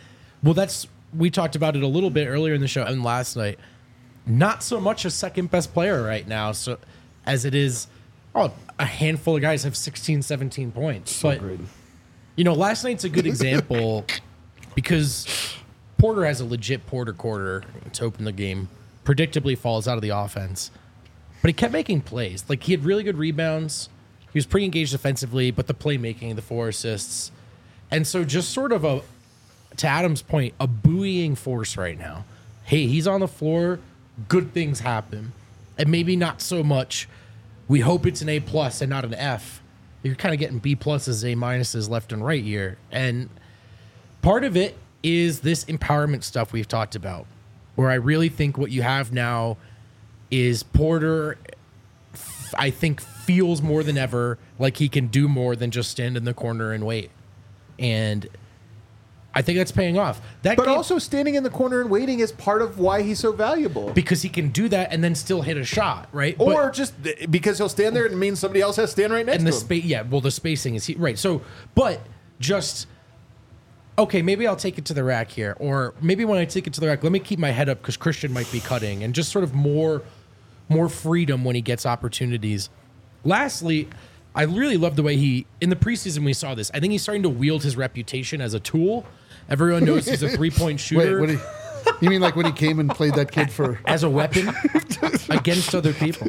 We talked about it a little bit earlier in the show and last night. Not so much a second best player right now, so as it is, a handful of guys have 16, 17 points. But great. Last night's a good example because Porter has a legit Porter quarter to open the game. Predictably falls out of the offense. But he kept making plays. Like, he had really good rebounds. He was pretty engaged defensively, but the playmaking, the 4 assists. And so just sort of to Adam's point, a buoying force right now. Hey, he's on the floor. Good things happen. And maybe not so much. We hope it's an A+ and not an F. You're kind of getting B+, A- left and right here. And part of it is this empowerment stuff we've talked about, where I really think what you have now is Porter, I think, feels more than ever like he can do more than just stand in the corner and wait. And I think that's paying off. But also standing in the corner and waiting is part of why he's so valuable. because he can do that and then still hit a shot, right? Or just because he'll stand there and it means somebody else has to stand right next and the to him. space, the spacing is right. So, but just okay, maybe I'll take it to the rack here, or maybe when I take it to the rack, let me keep my head up because Christian might be cutting, and just sort of more freedom when he gets opportunities. Lastly, I really love the way in the preseason we saw this. I think he's starting to wield his reputation as a tool. Everyone knows he's a 3-point shooter. Wait, you mean like when he came and played that kid for? As a weapon against other people.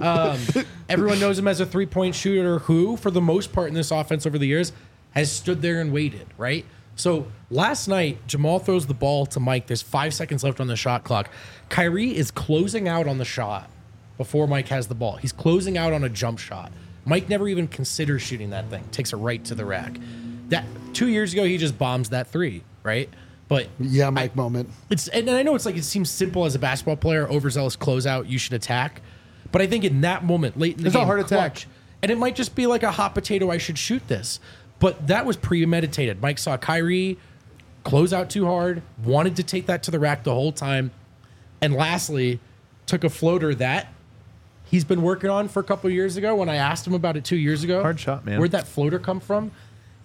Everyone knows him as a 3-point shooter who, for the most part in this offense over the years, has stood there and waited, right? So last night, Jamal throws the ball to Mike. There's 5 seconds left on the shot clock. Kyrie is closing out on the shot before Mike has the ball. He's closing out on a jump shot. Mike never even considers shooting that thing. Takes it right to the rack. That 2 years ago, he just bombs that 3, right? But Yeah, Mike moment. and I know it seems simple as a basketball player, overzealous closeout, you should attack. But I think in that moment, late in the It's a game, hard attack. clutch, and it might just be like a hot potato, I should shoot this. But that was premeditated. Mike saw Kyrie close out too hard, wanted to take that to the rack the whole time, and lastly, took a floater that he's been working on for a couple of years ago. When I asked him about it 2 years ago, Hard shot, man. Where'd that floater come from?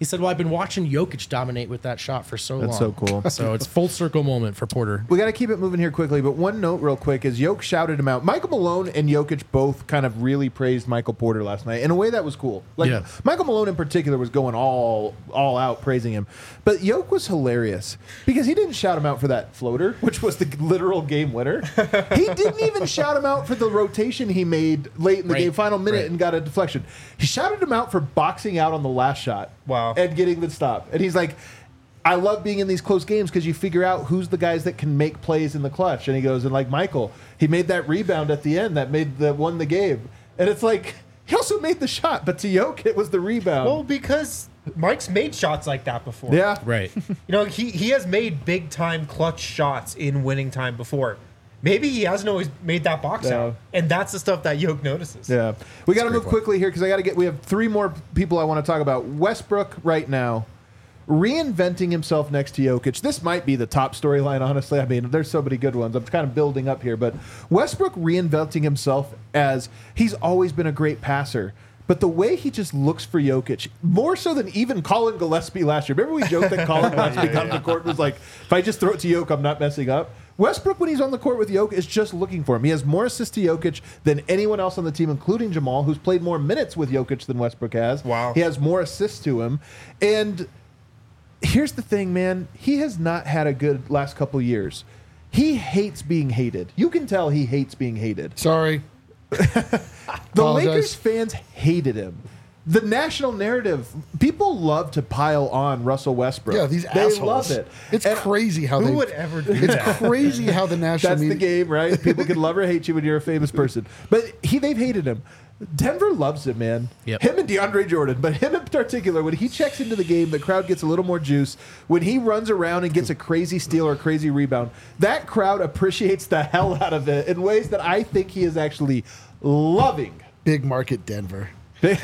He said, well, I've been watching Jokic dominate with that shot for so long. That's so cool. So it's full circle moment for Porter. We got to keep it moving here quickly, but one note real quick is Jokic shouted him out. Michael Malone and Jokic both kind of really praised Michael Porter last night in a way that was cool. Like Yeah. Michael Malone in particular was going all out praising him. But Jokic was hilarious because he didn't shout him out for that floater, which was the literal game winner. He didn't even shout him out for the rotation he made late in the game, final minute, and got a deflection. He shouted him out for boxing out on the last shot. Wow. And getting the stop. And he's like, I love being in these close games because you figure out who's the guys that can make plays in the clutch. And he goes, and like Michael, he made that rebound at the end that won the game. And it's like, he also made the shot, but to Jokic, it was the rebound. Well, because Mike's made shots like that before. Yeah. Right. You know, he has made big time clutch shots in winning time before. Maybe he hasn't always made that box Yeah. out. And that's the stuff that Jokic notices. Yeah. We got to a move great quickly here because we have 3 more people I want to talk about. Westbrook right now, reinventing himself next to Jokic. This might be the top storyline, honestly. I mean, there's so many good ones. I'm kind of building up here, but Westbrook reinventing himself as he's always been a great passer. But the way he just looks for Jokic, more so than even Colin Gillespie last year. Remember we joked that Colin Gillespie comes to court and was like, if I just throw it to Jokic, I'm not messing up. Westbrook, when he's on the court with Jokic, is just looking for him. He has more assists to Jokic than anyone else on the team, including Jamal, who's played more minutes with Jokic than Westbrook has. Wow. He has more assists to him. And here's the thing, man. He has not had a good last couple years. He hates being hated. You can tell he hates being hated. Sorry. The Apologize. Lakers fans hated him. The national narrative, people love to pile on Russell Westbrook. Yeah, these they assholes. love it. It's And crazy how Who they. would ever do It's that? crazy how the national That's the media. game, right? People can love or hate you when you're a famous person. But they've hated him. Denver loves him, man. Yep. Him and DeAndre Jordan, but him in particular, when he checks into the game, the crowd gets a little more juice. When he runs around and gets a crazy steal or a crazy rebound, that crowd appreciates the hell out of it in ways that I think he is actually loving. Big market Denver. we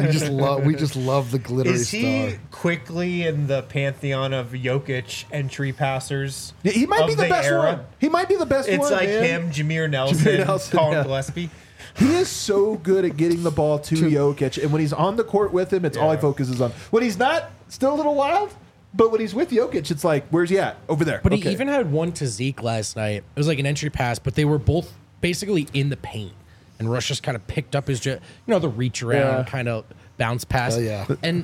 just love the glittery Is he star. quickly in the pantheon of Jokic entry passers? He might be of the best era? one. He might be the best It's one. like man. him, Jameer Nelson, Nelson, Colin yeah. Gillespie. He is so good at getting the ball to Jokic, and when he's on the court with him, it's all he Yeah. focuses on. When he's not, still a little wild, but when he's with Jokic, it's like, where's he at? Over there. But Okay. he even had one to Zeke last night. It was like an entry pass, but they were both basically in the paint. And Rush just kind of picked up his, the reach around Yeah. kind of bounce pass. Oh, yeah. And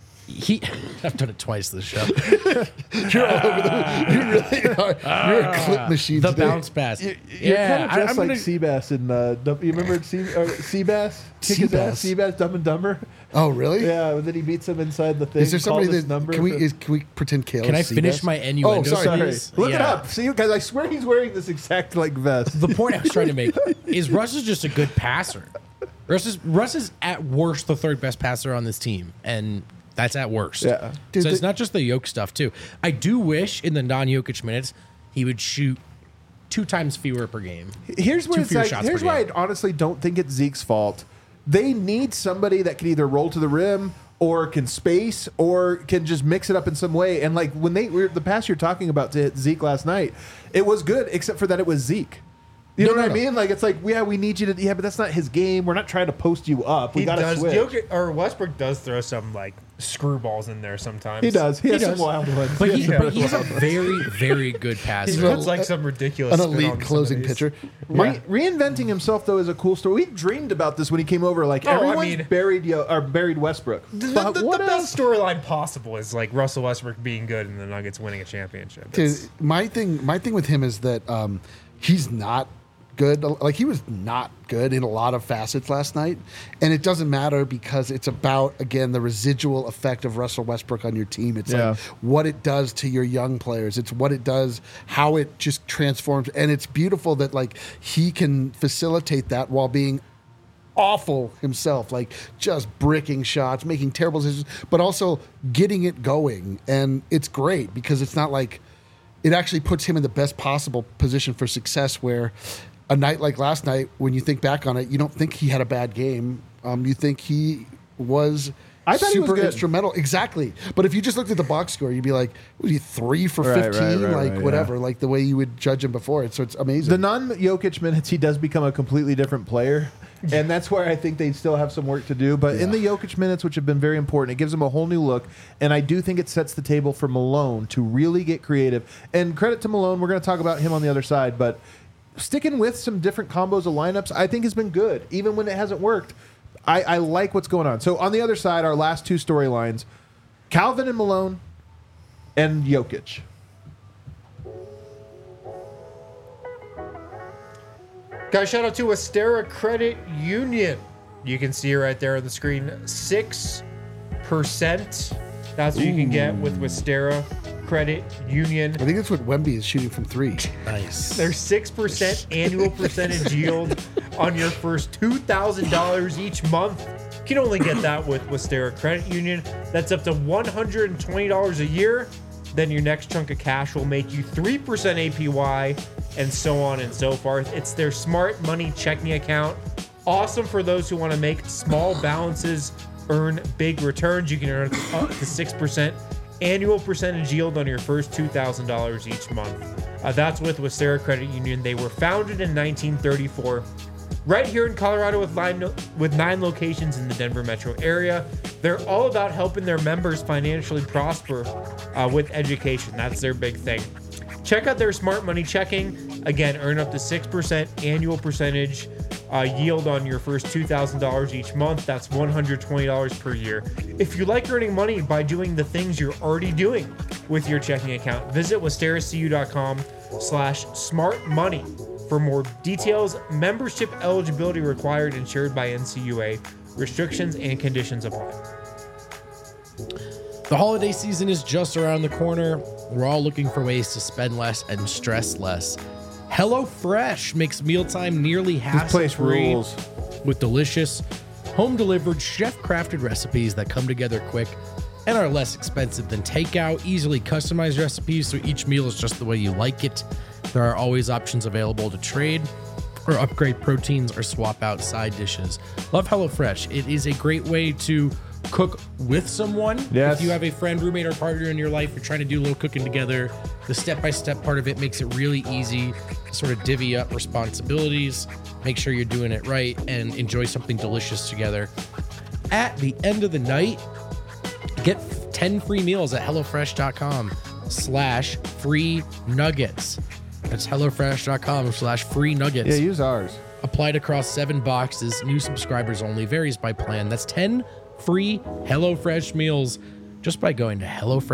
I've done it twice this show. You're all over the. You really are. You're a clip machine. The today. bounce pass. You're yeah, kind of dressed I'm like gonna- Seabass in you remember Seabass? Kick his ass, Seabass? Seabass, Dumb and Dumber. Oh, really? Yeah, and then he beats him inside the thing. Is there somebody calls his that number can we for- can we pretend Kayla? Can I finish my innuendo? Oh, sorry. please? Look it Yeah. up. See, because I swear he's wearing this exact like vest. The point I was trying to make is Russ is just a good passer. Russ is at worst the third best passer on this team, and that's at worst. Yeah. Dude, so it's the- not just the Jokic stuff too. I do wish in the non-Jokic minutes he would shoot 2 times fewer per game. Here's where Two it's fewer like, shots here's per why I game. honestly don't think it's Zeke's fault. They need somebody that can either roll to the rim or can space or can just mix it up in some way. And like when the pass you're talking about to Zeke last night, it was good except for that it was Zeke. You know what I mean? Like it's like, yeah, we need you to, yeah, but that's not his game. We're not trying to post you up. We He got to does. switch. Jokic, or Westbrook does throw some like screwballs in there sometimes. He does. He has does. some wild ones. But, He has he's some a very, very good passer. He puts like some ridiculous an spin on elite some of closing these. pitcher. Reinventing himself though is a cool story. We dreamed about this when he came over. Like Oh, I everyone's mean- buried Westbrook. But The what best else? storyline possible is like Russell Westbrook being good and the Nuggets winning a championship. Dude, It's- my thing with him is that he's not good. Like he was not good in a lot of facets last night, and it doesn't matter because it's about again the residual effect of Russell Westbrook on your team. It's Yeah. like what it does to your young players. It's what it does, how it just transforms, and it's beautiful that like he can facilitate that while being awful himself, like just bricking shots, making terrible decisions, but also getting it going. And it's great because it's not like it actually puts him in the best possible position for success where a night like last night, when you think back on it, you don't think he had a bad game. You think he was I thought he was super good. instrumental. Exactly. But if you just looked at the box score, you'd be like, was he 3 for Right, 15? right, Whatever, like the way you would judge him before. So it's amazing. The non-Jokic minutes, he does become a completely different player. And that's where I think they still have some work to do. But in the Jokic minutes, which have been very important, it gives him a whole new look. And I do think it sets the table for Malone to really get creative. And credit to Malone, we're going to talk about him on the other side. But sticking with some different combos of lineups, I think has been good. Even when it hasn't worked, I like what's going on. So on the other side, our last two storylines, Calvin and Malone and Jokic. Guys, shout out to Astera Credit Union. You can see it right there on the screen. 6%. That's what you can get with Astera Credit Union. I think that's what Wemby is shooting from 3. Nice. There's 6% annual percentage yield on your first $2,000 each month. You can only get that with Astera Credit Union. That's up to $120 a year. Then your next chunk of cash will make you 3% APY, and so on and so forth. It's their smart money checking account. Awesome for those who want to make small balances earn big returns. You can earn up to 6% annual percentage yield on your first $2,000 each month. That's with Astera Credit Union. They were founded in 1934. Right here in Colorado with 9 locations in the Denver metro area. They're all about helping their members financially prosper with education. That's their big thing. Check out their smart money checking. Again, earn up to 6% annual percentage yield on your first $2,000 each month. That's $120 per year. If you like earning money by doing the things you're already doing with your checking account, visit westeracu.com/smartmoney. For more details, membership eligibility required, insured by NCUA. Restrictions and conditions apply. The holiday season is just around the corner. We're all looking for ways to spend less and stress less. HelloFresh makes mealtime nearly hassle-free with delicious, home-delivered, chef-crafted recipes that come together quick and are less expensive than takeout. Easily customized recipes so each meal is just the way you like it. There are always options available to trade or upgrade proteins or swap out side dishes. Love HelloFresh. It is a great way to cook with someone. Yes. If you have a friend, roommate, or partner in your life, you're trying to do a little cooking together, the step-by-step part of it makes it really easy to sort of divvy up responsibilities, make sure you're doing it right, and enjoy something delicious together. At the end of the night, get 10 free meals at HelloFresh.com/free nuggets. That's HelloFresh.com/free nuggets. Yeah, use ours. Applied across 7 boxes. New subscribers only. Varies by plan. That's 10 free HelloFresh meals just by going to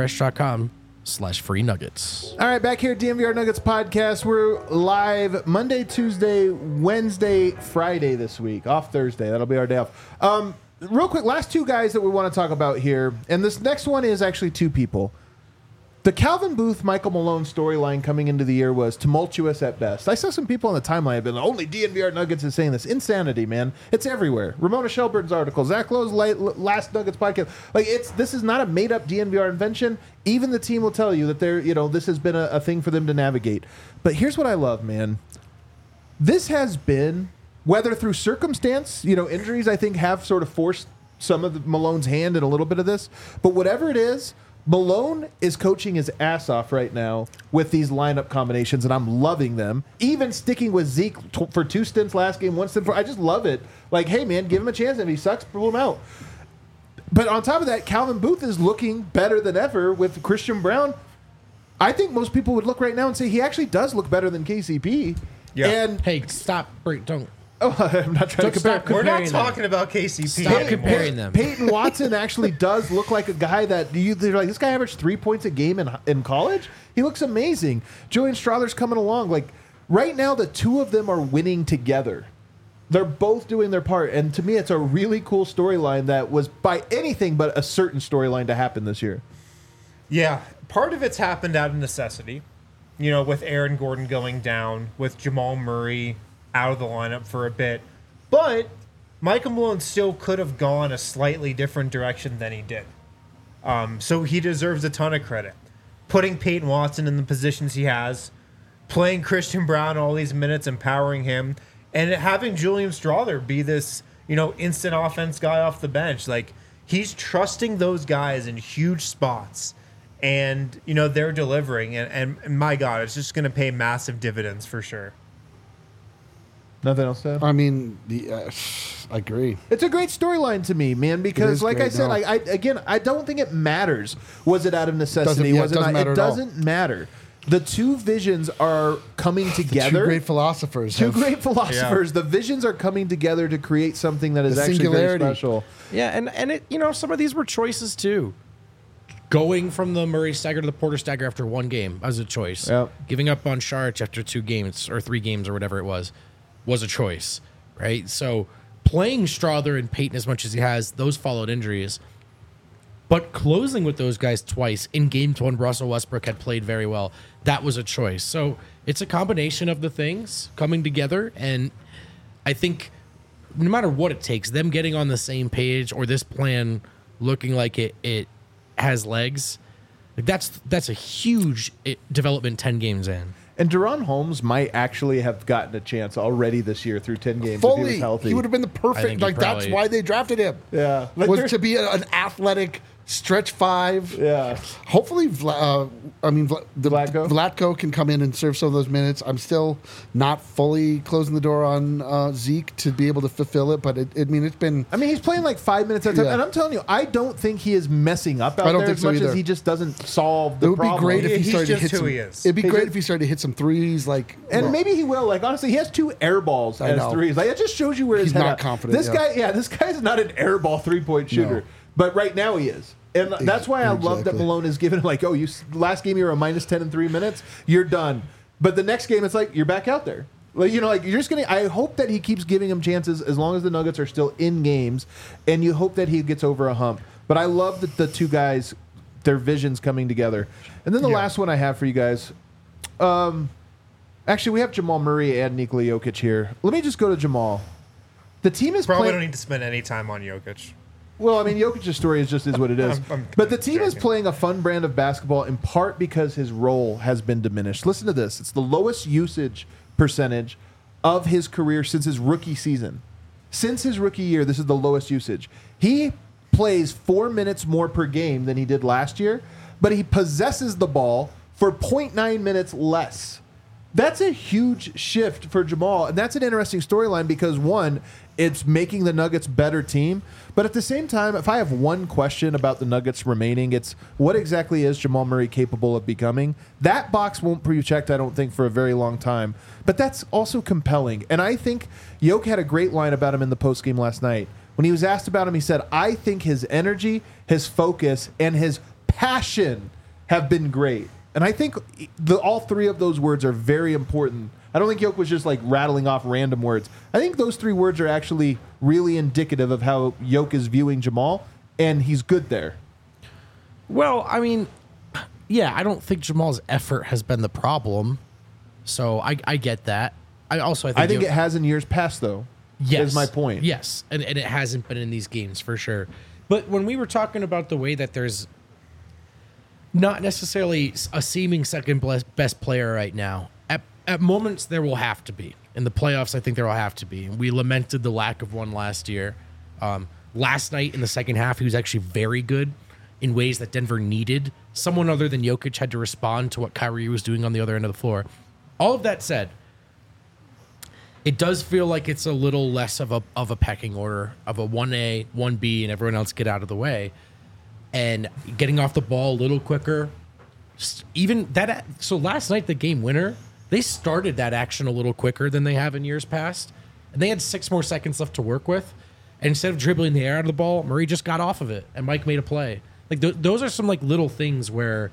HelloFresh.com/free nuggets. All right, back here at DNVR Nuggets Podcast. We're live Monday, Tuesday, Wednesday, Friday this week. Off Thursday. That'll be our day off. Real quick, last two guys that we want to talk about here. And this next one is actually 2 people. The Calvin Booth, Michael Malone storyline coming into the year was tumultuous at best. I saw some people on the timeline have been like, only DNVR Nuggets is saying this. Insanity, man. It's everywhere. Ramona Shelburne's article, Zach Lowe's last Nuggets podcast. Like, this is not a made-up DNVR invention. Even the team will tell you that this has been a thing for them to navigate. But here's what I love, man. This has been, whether through circumstance, injuries I think have sort of forced some of Malone's hand in a little bit of this. But whatever it is, Malone is coaching his ass off right now with these lineup combinations, and I'm loving them. Even sticking with Zeke for 2 stints last game, 1 stint for, I just love it. Like, hey, man, give him a chance. If he sucks, pull him out. But on top of that, Calvin Booth is looking better than ever with Christian Braun. I think most people would look right now and say he actually does look better than KCP. Yeah. And Hey, stop. Don't. oh, I'm not trying to compare. Stop We're not comparing talking about KCP. Stop anymore. comparing them. Peyton Watson actually does look like a guy that they're like, this guy averaged 3 points a game in college. He looks amazing. Julian Strother's coming along. Like, right now, the 2 of them are winning together. They're both doing their part. And to me, it's a really cool storyline that was by anything but a certain storyline to happen this year. Yeah, part of it's happened out of necessity. With Aaron Gordon going down, with Jamal Murray out of the lineup for a bit. But Michael Malone still could have gone a slightly different direction than he did. So he deserves a ton of credit. Putting Peyton Watson in the positions he has, playing Christian Braun all these minutes, empowering him, and having Julian Strother be this, instant offense guy off the bench. Like, he's trusting those guys in huge spots, and they're delivering, and my God, it's just going to pay massive dividends for sure. Nothing else to add? I mean, I agree. It's a great storyline to me, man, because like I said, I don't think it matters. Was it out of necessity? It doesn't matter. The two visions are coming together. Two great philosophers. Yeah. The visions are coming together to create something that is actually very special. Yeah, and it some of these were choices too. Going from the Murray stagger to the Porter stagger after one game was a choice. Yep. Giving up on Saric after 2 games or 3 games or whatever it was a choice, right? So playing Strawther and Payton as much as he has, those followed injuries. But closing with those guys twice in games when Russell Westbrook had played very well, that was a choice. So it's a combination of the things coming together. And I think no matter what it takes, them getting on the same page or this plan looking like it has legs, like that's a huge development 10 games in. And De'Ron Holmes might actually have gotten a chance already this year through 10 games Fully, if he was healthy. He would have been the perfect. That's why they drafted him. Yeah, was to be an athletic stretch 5. Yeah. Hopefully, Vlatko can come in and serve some of those minutes. I'm still not fully closing the door on Zeke to be able to fulfill it, but it's been. I mean, he's playing like 5 minutes at a time, and I'm telling you, I don't think he is messing up out there as much as he just doesn't solve the problem. It would be great if he started to hit some. It'd be great if he started to hit some threes, maybe he will. Like honestly, he has 2 air balls as threes. Like it just shows you where his he's head not at. confident. This guy's not an air ball 3-point shooter, but right now he is. And that's why I love that Malone is given last game you were a -10 in 3 minutes, you're done. But the next game it's like you're back out there. Like you're just gonna. I hope that he keeps giving him chances as long as the Nuggets are still in games, and you hope that he gets over a hump. But I love that the two guys, their visions coming together. And then the last one I have for you guys. Actually, we have Jamal Murray and Nikola Jokic here. Let me just go to Jamal. The team is probably don't need to spend any time on Jokic. Well, I mean, Jokic's story is what it is. But the team is playing a fun brand of basketball in part because his role has been diminished. Listen to this. It's the lowest usage percentage of his career since his rookie season. Since his rookie year, this is the lowest usage. He plays 4 minutes more per game than he did last year, but he possesses the ball for 0.9 minutes less. That's a huge shift for Jamal, and that's an interesting storyline because, one, it's making the Nuggets better team, but at the same time, if I have one question about the Nuggets remaining, it's what exactly is Jamal Murray capable of becoming? That box won't be checked, I don't think, for a very long time, but that's also compelling, and I think Jokic had a great line about him in the postgame last night. When he was asked about him, he said, I think his energy, his focus, and his passion have been great. And I think all 3 of those words are very important. I don't think Jokic was just like rattling off random words. I think those 3 words are actually really indicative of how Jokic is viewing Jamal, and he's good there. Well, I mean, yeah, I don't think Jamal's effort has been the problem. So I get that. I think it has in years past, though. Yes. Is my point. Yes, and it hasn't been in these games for sure. But when we were talking about the way that there's not necessarily a seeming second best player right now. At moments, there will have to be. In the playoffs, I think there will have to be. We lamented the lack of one last year. Last night in the second half, he was actually very good in ways that Denver needed. Someone other than Jokic had to respond to what Kyrie was doing on the other end of the floor. All of that said, it does feel like it's a little less of a pecking order, of a 1A, 1B, and everyone else get out of the way. And getting off the ball a little quicker. Even that. So last night, the game winner, they started that action a little quicker than they have in years past. And they had 6 more seconds left to work with. And instead of dribbling the air out of the ball, Murray just got off of it. And Mike made a play. Like those are some little things where,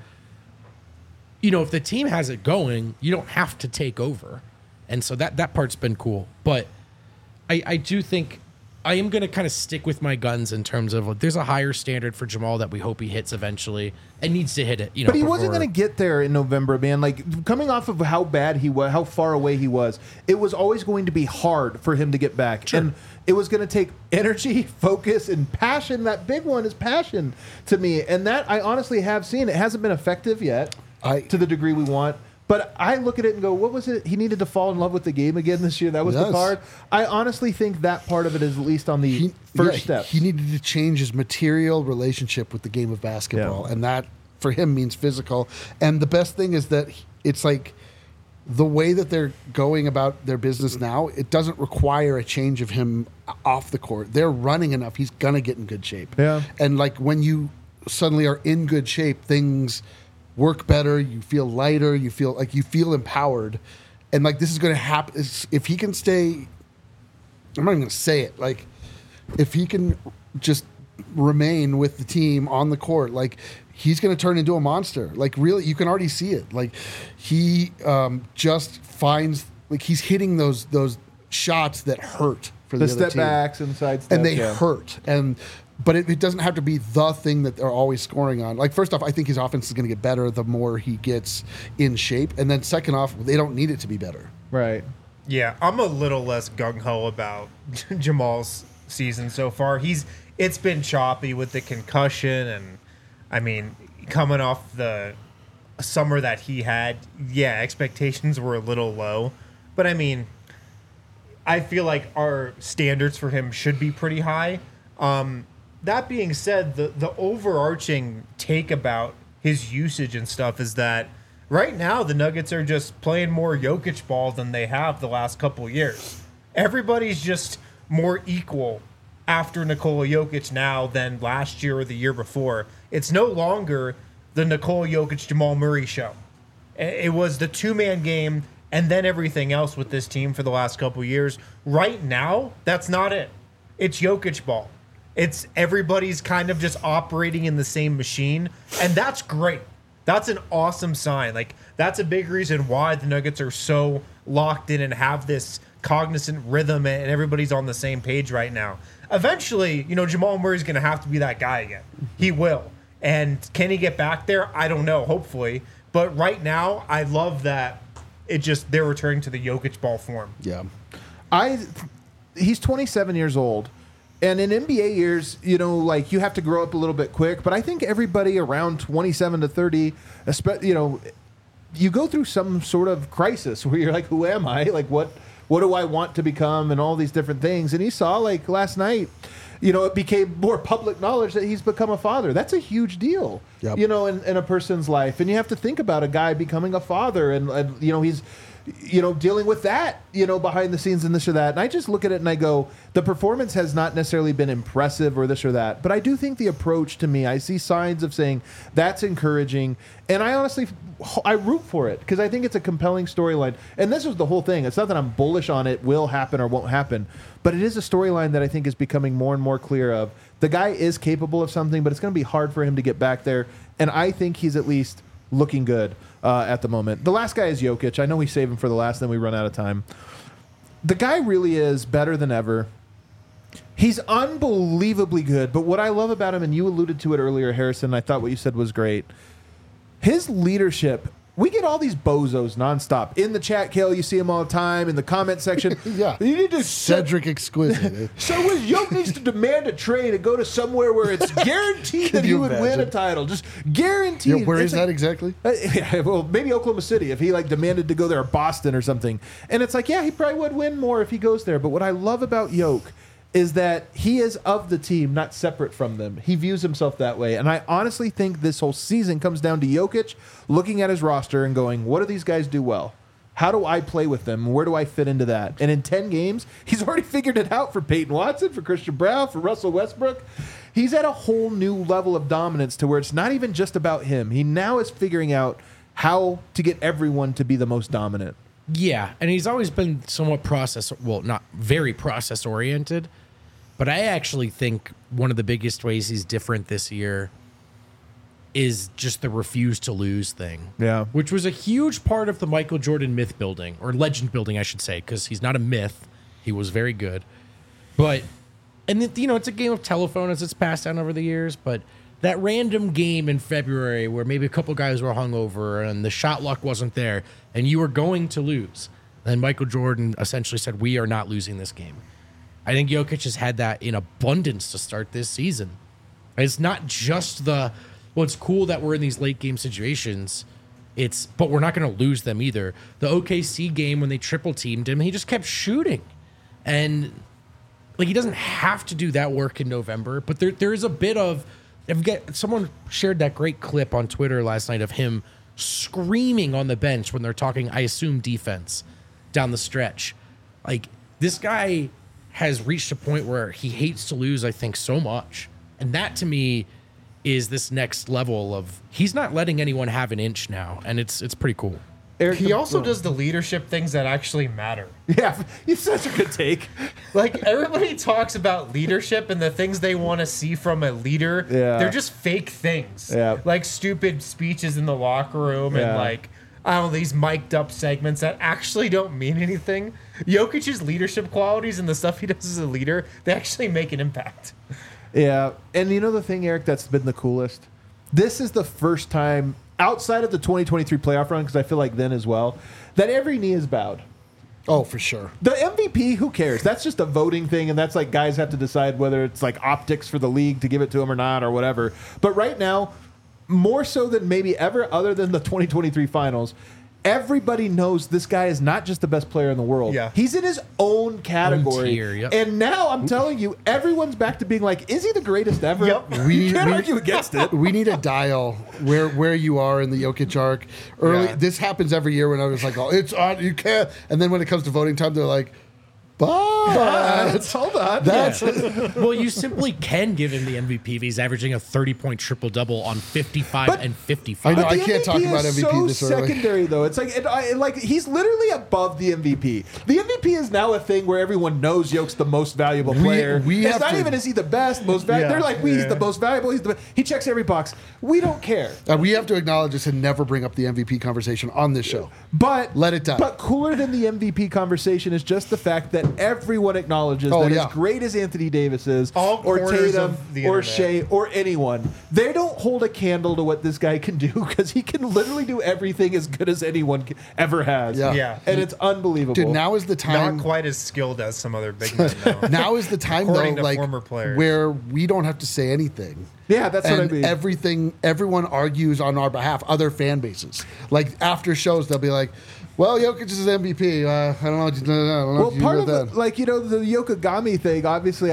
if the team has it going, you don't have to take over. And so that part's been cool. But I do think I am going to kind of stick with my guns in terms of there's a higher standard for Jamal that we hope he hits eventually and needs to hit it. But he wasn't going to get there in November, man. Like coming off of how bad he was, how far away he was, it was always going to be hard for him to get back. Sure. And it was going to take energy, focus, and passion. That big one is passion to me. And that I honestly have seen. It hasn't been effective yet to the degree we want. But I look at it and go, what was it? He needed to fall in love with the game again this year. That was the Yes. card. I honestly think that part of it is at least on the first step. He needed to change his material relationship with the game of basketball, Yeah. and that for him means physical. And the best thing is that it's like the way that they're going about their business now. It doesn't require a change of him off the court. They're running enough; he's gonna get in good shape. Yeah. And like when you suddenly are in good shape, things work better. You feel lighter. You feel empowered. And like this is going to happen if he can stay. I'm not even going to say it. Like if he can just remain with the team on the court, like he's going to turn into a monster. Like really, you can already see it. Like he just finds like he's hitting those shots that hurt for the other step team. backs and side steps. And they hurt. But it doesn't have to be the thing that they're always scoring on. Like, first off, I think his offense is going to get better the more he gets in shape. And then second off, they don't need it to be better. Right. Yeah, I'm a little less gung-ho about Jamal's season so far. It's been choppy with the concussion, and I mean, coming off the summer that he had, yeah, expectations were a little low. But I mean, I feel like our standards for him should be pretty high. That being said, the overarching take about his usage and stuff is that right now the Nuggets are just playing more Jokic ball than they have the last couple of years. Everybody's just more equal after Nikola Jokic now than last year or the year before. It's no longer the Nikola Jokic Jamal Murray show. It was the two-man game and then everything else with this team for the last couple of years. Right now, that's not it. It's Jokic ball. It's everybody's kind of just operating in the same machine, and that's great. That's an awesome sign. Like, that's a big reason why the Nuggets are so locked in and have this cognizant rhythm, and everybody's on the same page right now. Eventually, Jamal Murray's going to have to be that guy again. He will. And can he get back there? I don't know, hopefully. But right now, I love that they're returning to the Jokic ball form. Yeah. He's 27 years old. And in NBA years, like you have to grow up a little bit quick. But I think everybody around 27 to 30, you go through some sort of crisis where you're like, who am I? Like, what do I want to become? And all these different things. And he saw, like, last night, it became more public knowledge that he's become a father. That's a huge deal, Yep. In a person's life. And you have to think about a guy becoming a father and he's dealing with that, behind the scenes and this or that. And I just look at it and I go, the performance has not necessarily been impressive or this or that. But I do think the approach to me, I see signs of saying that's encouraging. And I honestly, I root for it because I think it's a compelling storyline. And this was the whole thing. It's not that I'm bullish on it will happen or won't happen, but it is a storyline that I think is becoming more and more clear of. The guy is capable of something, but it's going to be hard for him to get back there. And I think he's at least looking good at the moment. The last guy is Jokic. I know we save him for the last, then we run out of time. The guy really is better than ever. He's unbelievably good. But what I love about him, and you alluded to it earlier, Harrison, I thought what you said was great. His leadership. We get all these bozos nonstop. In the chat, Kale, you see him all the time. In the comment section. Yeah. You need to Cedric Exquisite. So Jokic needs to demand a trade and go to somewhere where it's guaranteed that he you would win imagine? a title. Just guaranteed. Yeah, where It's is that exactly? yeah, well, maybe Oklahoma City if he demanded to go there, or Boston or something. And it's like, yeah, he probably would win more if he goes there. But what I love about Yoke is that he is of the team, not separate from them. He views himself that way. And I honestly think this whole season comes down to Jokic looking at his roster and going, what do these guys do well? How do I play with them? Where do I fit into that? And in 10 games, he's already figured it out for Peyton Watson, for Christian Brown, for Russell Westbrook. He's at a whole new level of dominance to where it's not even just about him. He now is figuring out how to get everyone to be the most dominant. Yeah, and he's always been somewhat not very process oriented, but I actually think one of the biggest ways he's different this year is just the refuse to lose thing. Yeah. Which was a huge part of the Michael Jordan myth building, or legend building, I should say, because he's not a myth. He was very good. But, and it's a game of telephone as it's passed down over the years, but that random game in February where maybe a couple guys were hungover and the shot luck wasn't there and you were going to lose. Then Michael Jordan essentially said, we are not losing this game. I think Jokic has had that in abundance to start this season. It's not just it's cool that we're in these late game situations, But we're not going to lose them either. The OKC game when they triple teamed him, he just kept shooting. And like, he doesn't have to do that work in November, but there is a bit of, someone shared that great clip on Twitter last night of him screaming on the bench when they're talking, I assume, defense down the stretch. Like, this guy has reached a point where he hates to lose, I think, so much. And that to me is this next level of, he's not letting anyone have an inch now. And it's pretty cool. Eric, He also does the leadership things that actually matter. Yeah, it's such a good take. Like, everybody talks about leadership and the things they want to see from a leader. Yeah. They're just fake things. Yeah. Like stupid speeches in the locker room Yeah. and like, I don't know, these mic'd up segments that actually don't mean anything. Jokic's leadership qualities and the stuff he does as a leader, they actually make an impact. Yeah, and you know the thing, Eric, that's been the coolest? This is the first time, outside of the 2023 playoff run, because I feel like then as well, that every knee is bowed. Oh, for sure. The MVP, who cares? That's just a voting thing, and that's like guys have to decide whether it's like optics for the league to give it to him or not or whatever. But right now, more so than maybe ever other than the 2023 finals, everybody knows this guy is not just the best player in the world. Yeah. He's in his own category. tier, yep. And now I'm telling you, everyone's back to being like, is he the greatest ever? Yep. You can't argue against it. We need a dial where you are in the Jokic arc. Early, Yeah. this happens every year when I was like, "Oh, it's on, you can't." And then when it comes to voting time, they're like, "But Hold on. that's Well, you simply can give him the MVP if he's averaging a 30-point triple-double on 55 But- and 55. I know, But I the can't talk MVP about is MVP so this early. secondary, though. It's like he's literally above the MVP. The MVP is now a thing where everyone knows Yoke's the most valuable player. we it's have not to- even is he the best, most valuable. Yeah, They're like, he's the most valuable. He checks every box. We don't care. we have to acknowledge this and never bring up the MVP conversation on this show. But Let it die. But cooler than the MVP conversation is just the fact that everyone acknowledges Oh, that yeah. as great as Anthony Davis is, All or corners Tatum, of the or internet. Shea, or anyone, they don't hold a candle to what this guy can do because he can literally do everything as good as anyone ever has. Yeah. Yeah. And it's unbelievable. Dude, now is the time. Not quite as skilled as some other big men, though. Now is the time, According though, to like former players. where we don't have to say anything. Yeah, that's what I And mean. everyone argues on our behalf. Other fan bases, like after shows, they'll be like, "Well, Jokic is MVP. I don't know. I don't know Well, what you part do of with it, that." like, the Yokogami thing, obviously,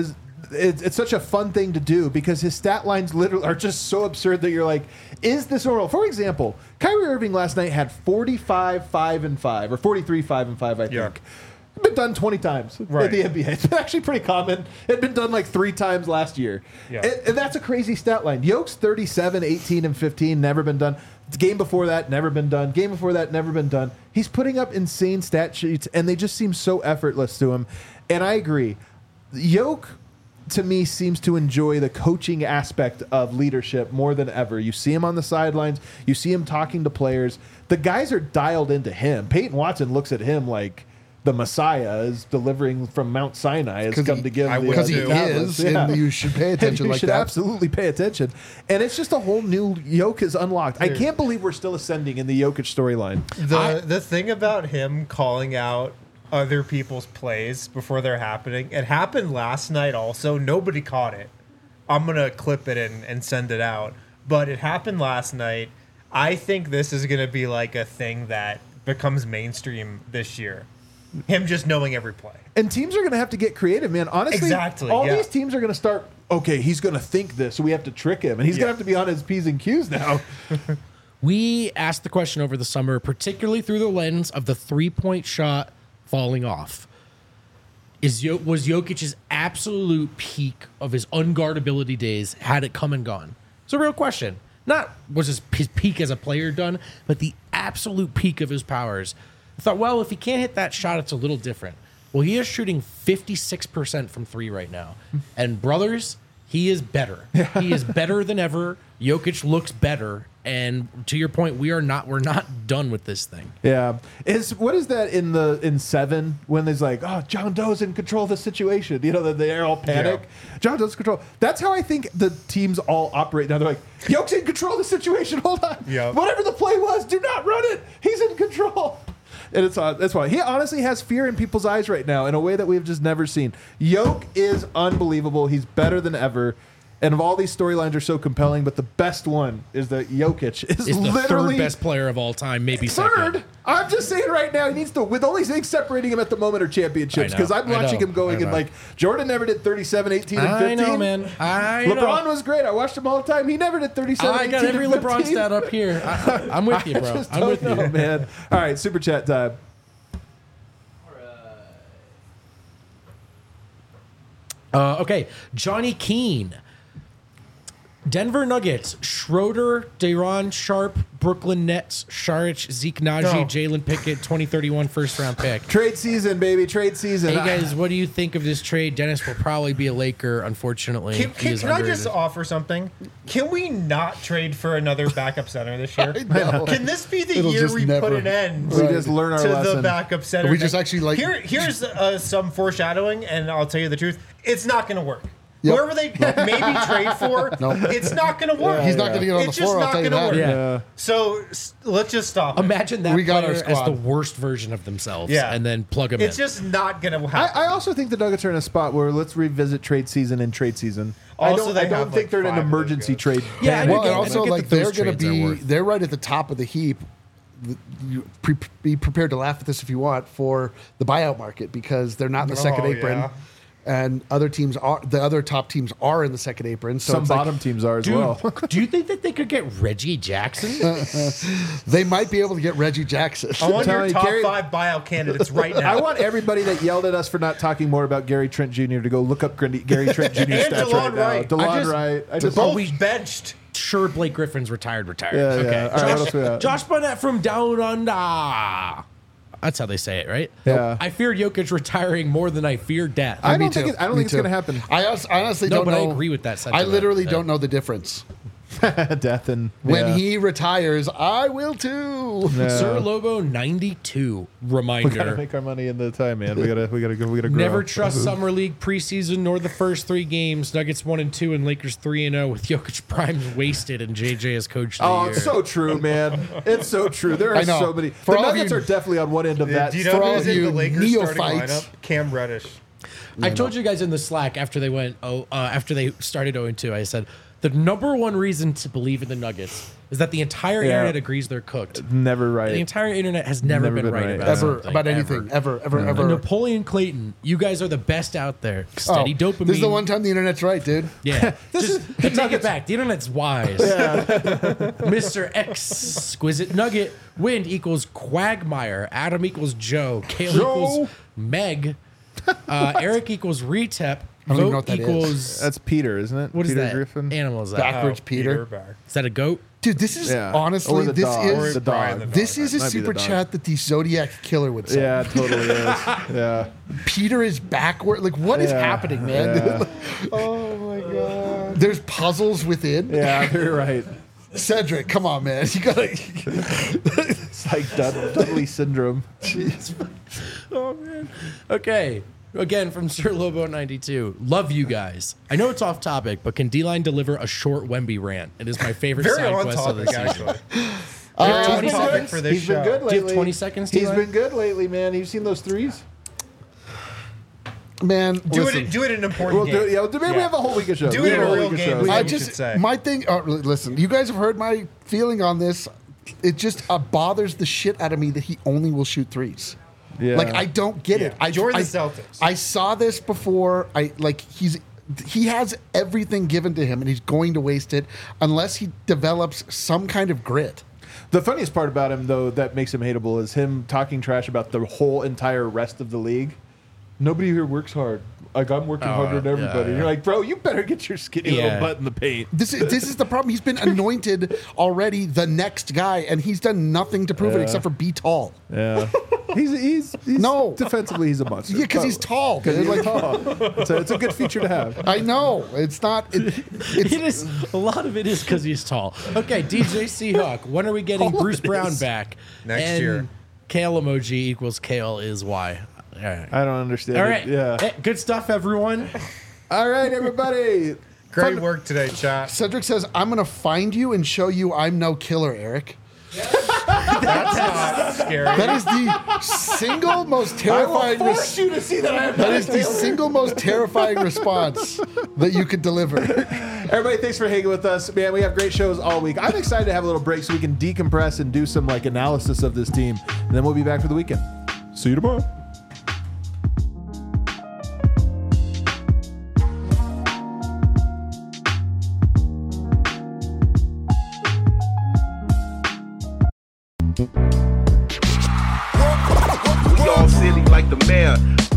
it's such a fun thing to do because his stat lines literally are just so absurd that you're like, is this normal? For example, Kyrie Irving last night had 45, 5, and 5, or 43, 5, and 5, I think. Yeah. It's been done 20 times Right. in the NBA. It's actually pretty common. It had been done like 3 times last year. Yeah. And that's a crazy stat line. Yoke's 37, 18, and 15, never been done. Game before that, never been done. Game before that, never been done. He's putting up insane stat sheets, and they just seem so effortless to him. And I agree. Yoke, to me, seems to enjoy the coaching aspect of leadership more than ever. You see him on the sidelines. You see him talking to players. The guys are dialed into him. Peyton Watson looks at him like the Messiah is delivering from Mount Sinai has come to give would Because he too. is, and you should pay attention you like should that. absolutely pay attention. And it's just a whole new Yoke is unlocked. I can't believe we're still ascending in the Jokic storyline. The thing about him calling out other people's plays before they're happening, it happened last night also. Nobody caught it. I'm going to clip it and send it out. But it happened last night. I think this is going to be like a thing that becomes mainstream this year. Him just knowing every play. And teams are going to have to get creative, man. Honestly, Exactly, all yeah. these teams are going to start, okay, he's going to think this, so we have to trick him. And he's going to have to be on his P's and Q's now. We asked the question over the summer, particularly through the lens of the three-point shot falling off. Was Jokic's absolute peak of his unguardability days, had it come and gone? It's a real question. Not was his peak as a player done, but the absolute peak of his powers. I thought, well, if he can't hit that shot, it's a little different. Well, he is shooting 56% from 3 right now. And brothers, he is better. He is better than ever. Jokic looks better. And to your point, we're not done with this thing. Yeah. What is that in 7 when there's like, oh, John Doe's in control of the situation? You know, they're all panic. Yeah. John Doe's in control. That's how I think the teams all operate now. They're like, Yoke's in control of the situation. Hold on. Yeah. Whatever the play was, do not run it. He's in control. And that's why he honestly has fear in people's eyes right now in a way that we've just never seen. Yoke is unbelievable. He's better than ever. And of all these storylines are so compelling, but the best one is that Jokic is Is the literally third best player of all time, maybe third. second. I'm just saying right now, he needs to. With only things separating him at the moment are championships. I know, Because I'm I watching know, him going I in know. like Jordan never did 37, 18, and 15. I know, man. I LeBron know. was great. I watched him all the time. He never did 37, I 18, got every and 15. LeBron stat up here. I'm with you, bro. I just I'm don't with know, you. man. All right, super chat time. Okay, Johnny Keene. Denver Nuggets, Schroeder, Day'Ron Sharp, Brooklyn Nets, Saric, Zeke Naji, No. Jalen Pickett, 2031 first round pick. Trade season, baby. Trade season. Hey guys, what do you think of this trade? Dennis will probably be a Laker, unfortunately. He Can is I just underrated. offer something? Can we not trade for another backup center this year? know. Can this be the It'll year just we never- put an end We just learn our to the lesson. backup center? We just actually, like- Here's some foreshadowing, and I'll tell you the truth. It's not going to work. Yep. Whoever they maybe trade for, it's not going to work. He's not going to get on It's the just floor. I'll not tell you going to that. work. Yeah. So let's just stop. it. Imagine that We got our player as the squad. worst version of themselves, Yeah. and then plug him It's in. just not going to happen. I also think the Nuggets are in a spot where let's revisit trade season and trade season. Also, I they don't have, think like, they're in an 5 of those emergency guys. trade. Yeah, I panic. Well, and I also get like that those they're going to trades are be worth- they're right at the top of the heap. Be prepared to laugh at this if you want for the buyout market because they're not in the second Oh, apron, yeah. and other teams are the other top teams are in the second apron. So Some it's like, bottom teams are as Dude, well. do you think that they could get Reggie Jackson? they might be able to get Reggie Jackson. I want telling your you, top Gary- 5 buyout candidates right now. I want everybody that yelled at us for not talking more about Gary Trent Jr. to go look up Gary Trent Jr. And stats DeLon right now. Wright. DeLon Wright. I just both benched. Sure, Blake Griffin's retired. Yeah, Okay. yeah. All right, what else we got? Josh Barnett from Down Under. That's how they say it, right? Yeah. I fear Jokic retiring more than I fear death. I Me don't think too. it's Me going to too. happen. I honestly No, don't but I know. agree with that I sentiment. literally Yeah. don't know the difference. Death and When yeah. he retires, I will too. Yeah. Sir Lobo 92 we gotta reminder. make our money in the time, man. We gotta grow. Never trust summer league preseason nor the first 3 games. Nuggets 1-2 and Lakers 3-0 with Jokic primes wasted and JJ as coach of the Oh, year. it's so true, man. It's so true. There are I know. so many. For The all of Nuggets you- are definitely on one end of that. Do you For know all who's of in the you Lakers starting neophytes. lineup? Cam Reddish. I told you guys in the Slack after they went after they started 0-2, I said the number one reason to believe in the Nuggets is that the entire Yeah. internet agrees they're cooked. Never The right. entire internet has never been right about Ever something, about anything. Ever. And Napoleon Clayton, you guys are the best out there. Oh, Steady dopamine. this is the one time the internet's right, dude. Yeah. Take it back. The internet's wise. Mr. Exquisite Nugget. Wind equals Quagmire. Adam equals Joe. Kale equals Meg. Eric equals Retep. I don't even know Vote what that is. equals. That's Peter, isn't it? What is Peter that? Griffin. Animal is that? Backwards, Peter. Bear. Is that a goat? Dude, this is Yeah. honestly Or the this dog. is the Brian dog. the this is a Might be the super dog. chat that the Zodiac Killer would say. Yeah, it totally is. Yeah. Peter is backward. Like, what is Yeah. happening, man? Yeah. Oh my god. There's puzzles within. Yeah, you're right. Cedric, come on, man. You gotta. It's like Dudley syndrome. Oh, man. Okay. Again, from Sir Lobo 92. Love you guys. I know it's off topic, but can D-Line deliver a short Wemby rant? It is my favorite Very side on quest of the topic, season. actually. Uh, 20 topic seconds? for this He's been show. good Do you have lately. 20 seconds, He's T-Line? been good lately, man. You've seen those threes? Man, Do listen. it in an important We'll game. do it. Yeah, maybe we have a whole week of shows. Do We it in have a whole real week of game. shows. We I should just say. my thing. Listen, you guys have heard my feeling on this. It just bothers the shit out of me that he only will shoot threes. Yeah. Like I don't get it. I Join the I- Celtics. I saw this before. He has everything given to him, and he's going to waste it unless he develops some kind of grit. The funniest part about him, though, that makes him hateable is him talking trash about the whole entire rest of the league. Nobody here works hard. Like, I'm working harder than everybody. yeah. You're like, bro, you better get your skinny Yeah. little butt in the paint. This is the problem. He's been anointed already the next guy, and he's done nothing to prove it except for be tall. Yeah. he's No. defensively, he's a monster. Yeah, because he's tall. Because Dude. he's Like, tall. So it's a good feature to have. I know it's not. It is a lot of it is because he's tall. Okay, DJ Seahawk. When are we getting All Bruce of it Brown is. back? Next And year. Kale emoji equals Kale is why. All right. I don't understand All it. right. Yeah. Hey, good stuff, everyone. All right, everybody. Great Fun- work today, chat. Cedric says, "I'm gonna find you and show you I'm no killer, Eric." That's not scary. That is the single most I terrifying. will force you to see that I am That is the single most terrifying response that you could deliver. Everybody, thanks for hanging with us. Man, we have great shows all week. I'm excited to have a little break so we can decompress and do some like analysis of this team. And then we'll be back for the weekend. See you tomorrow. We all silly like the mayor.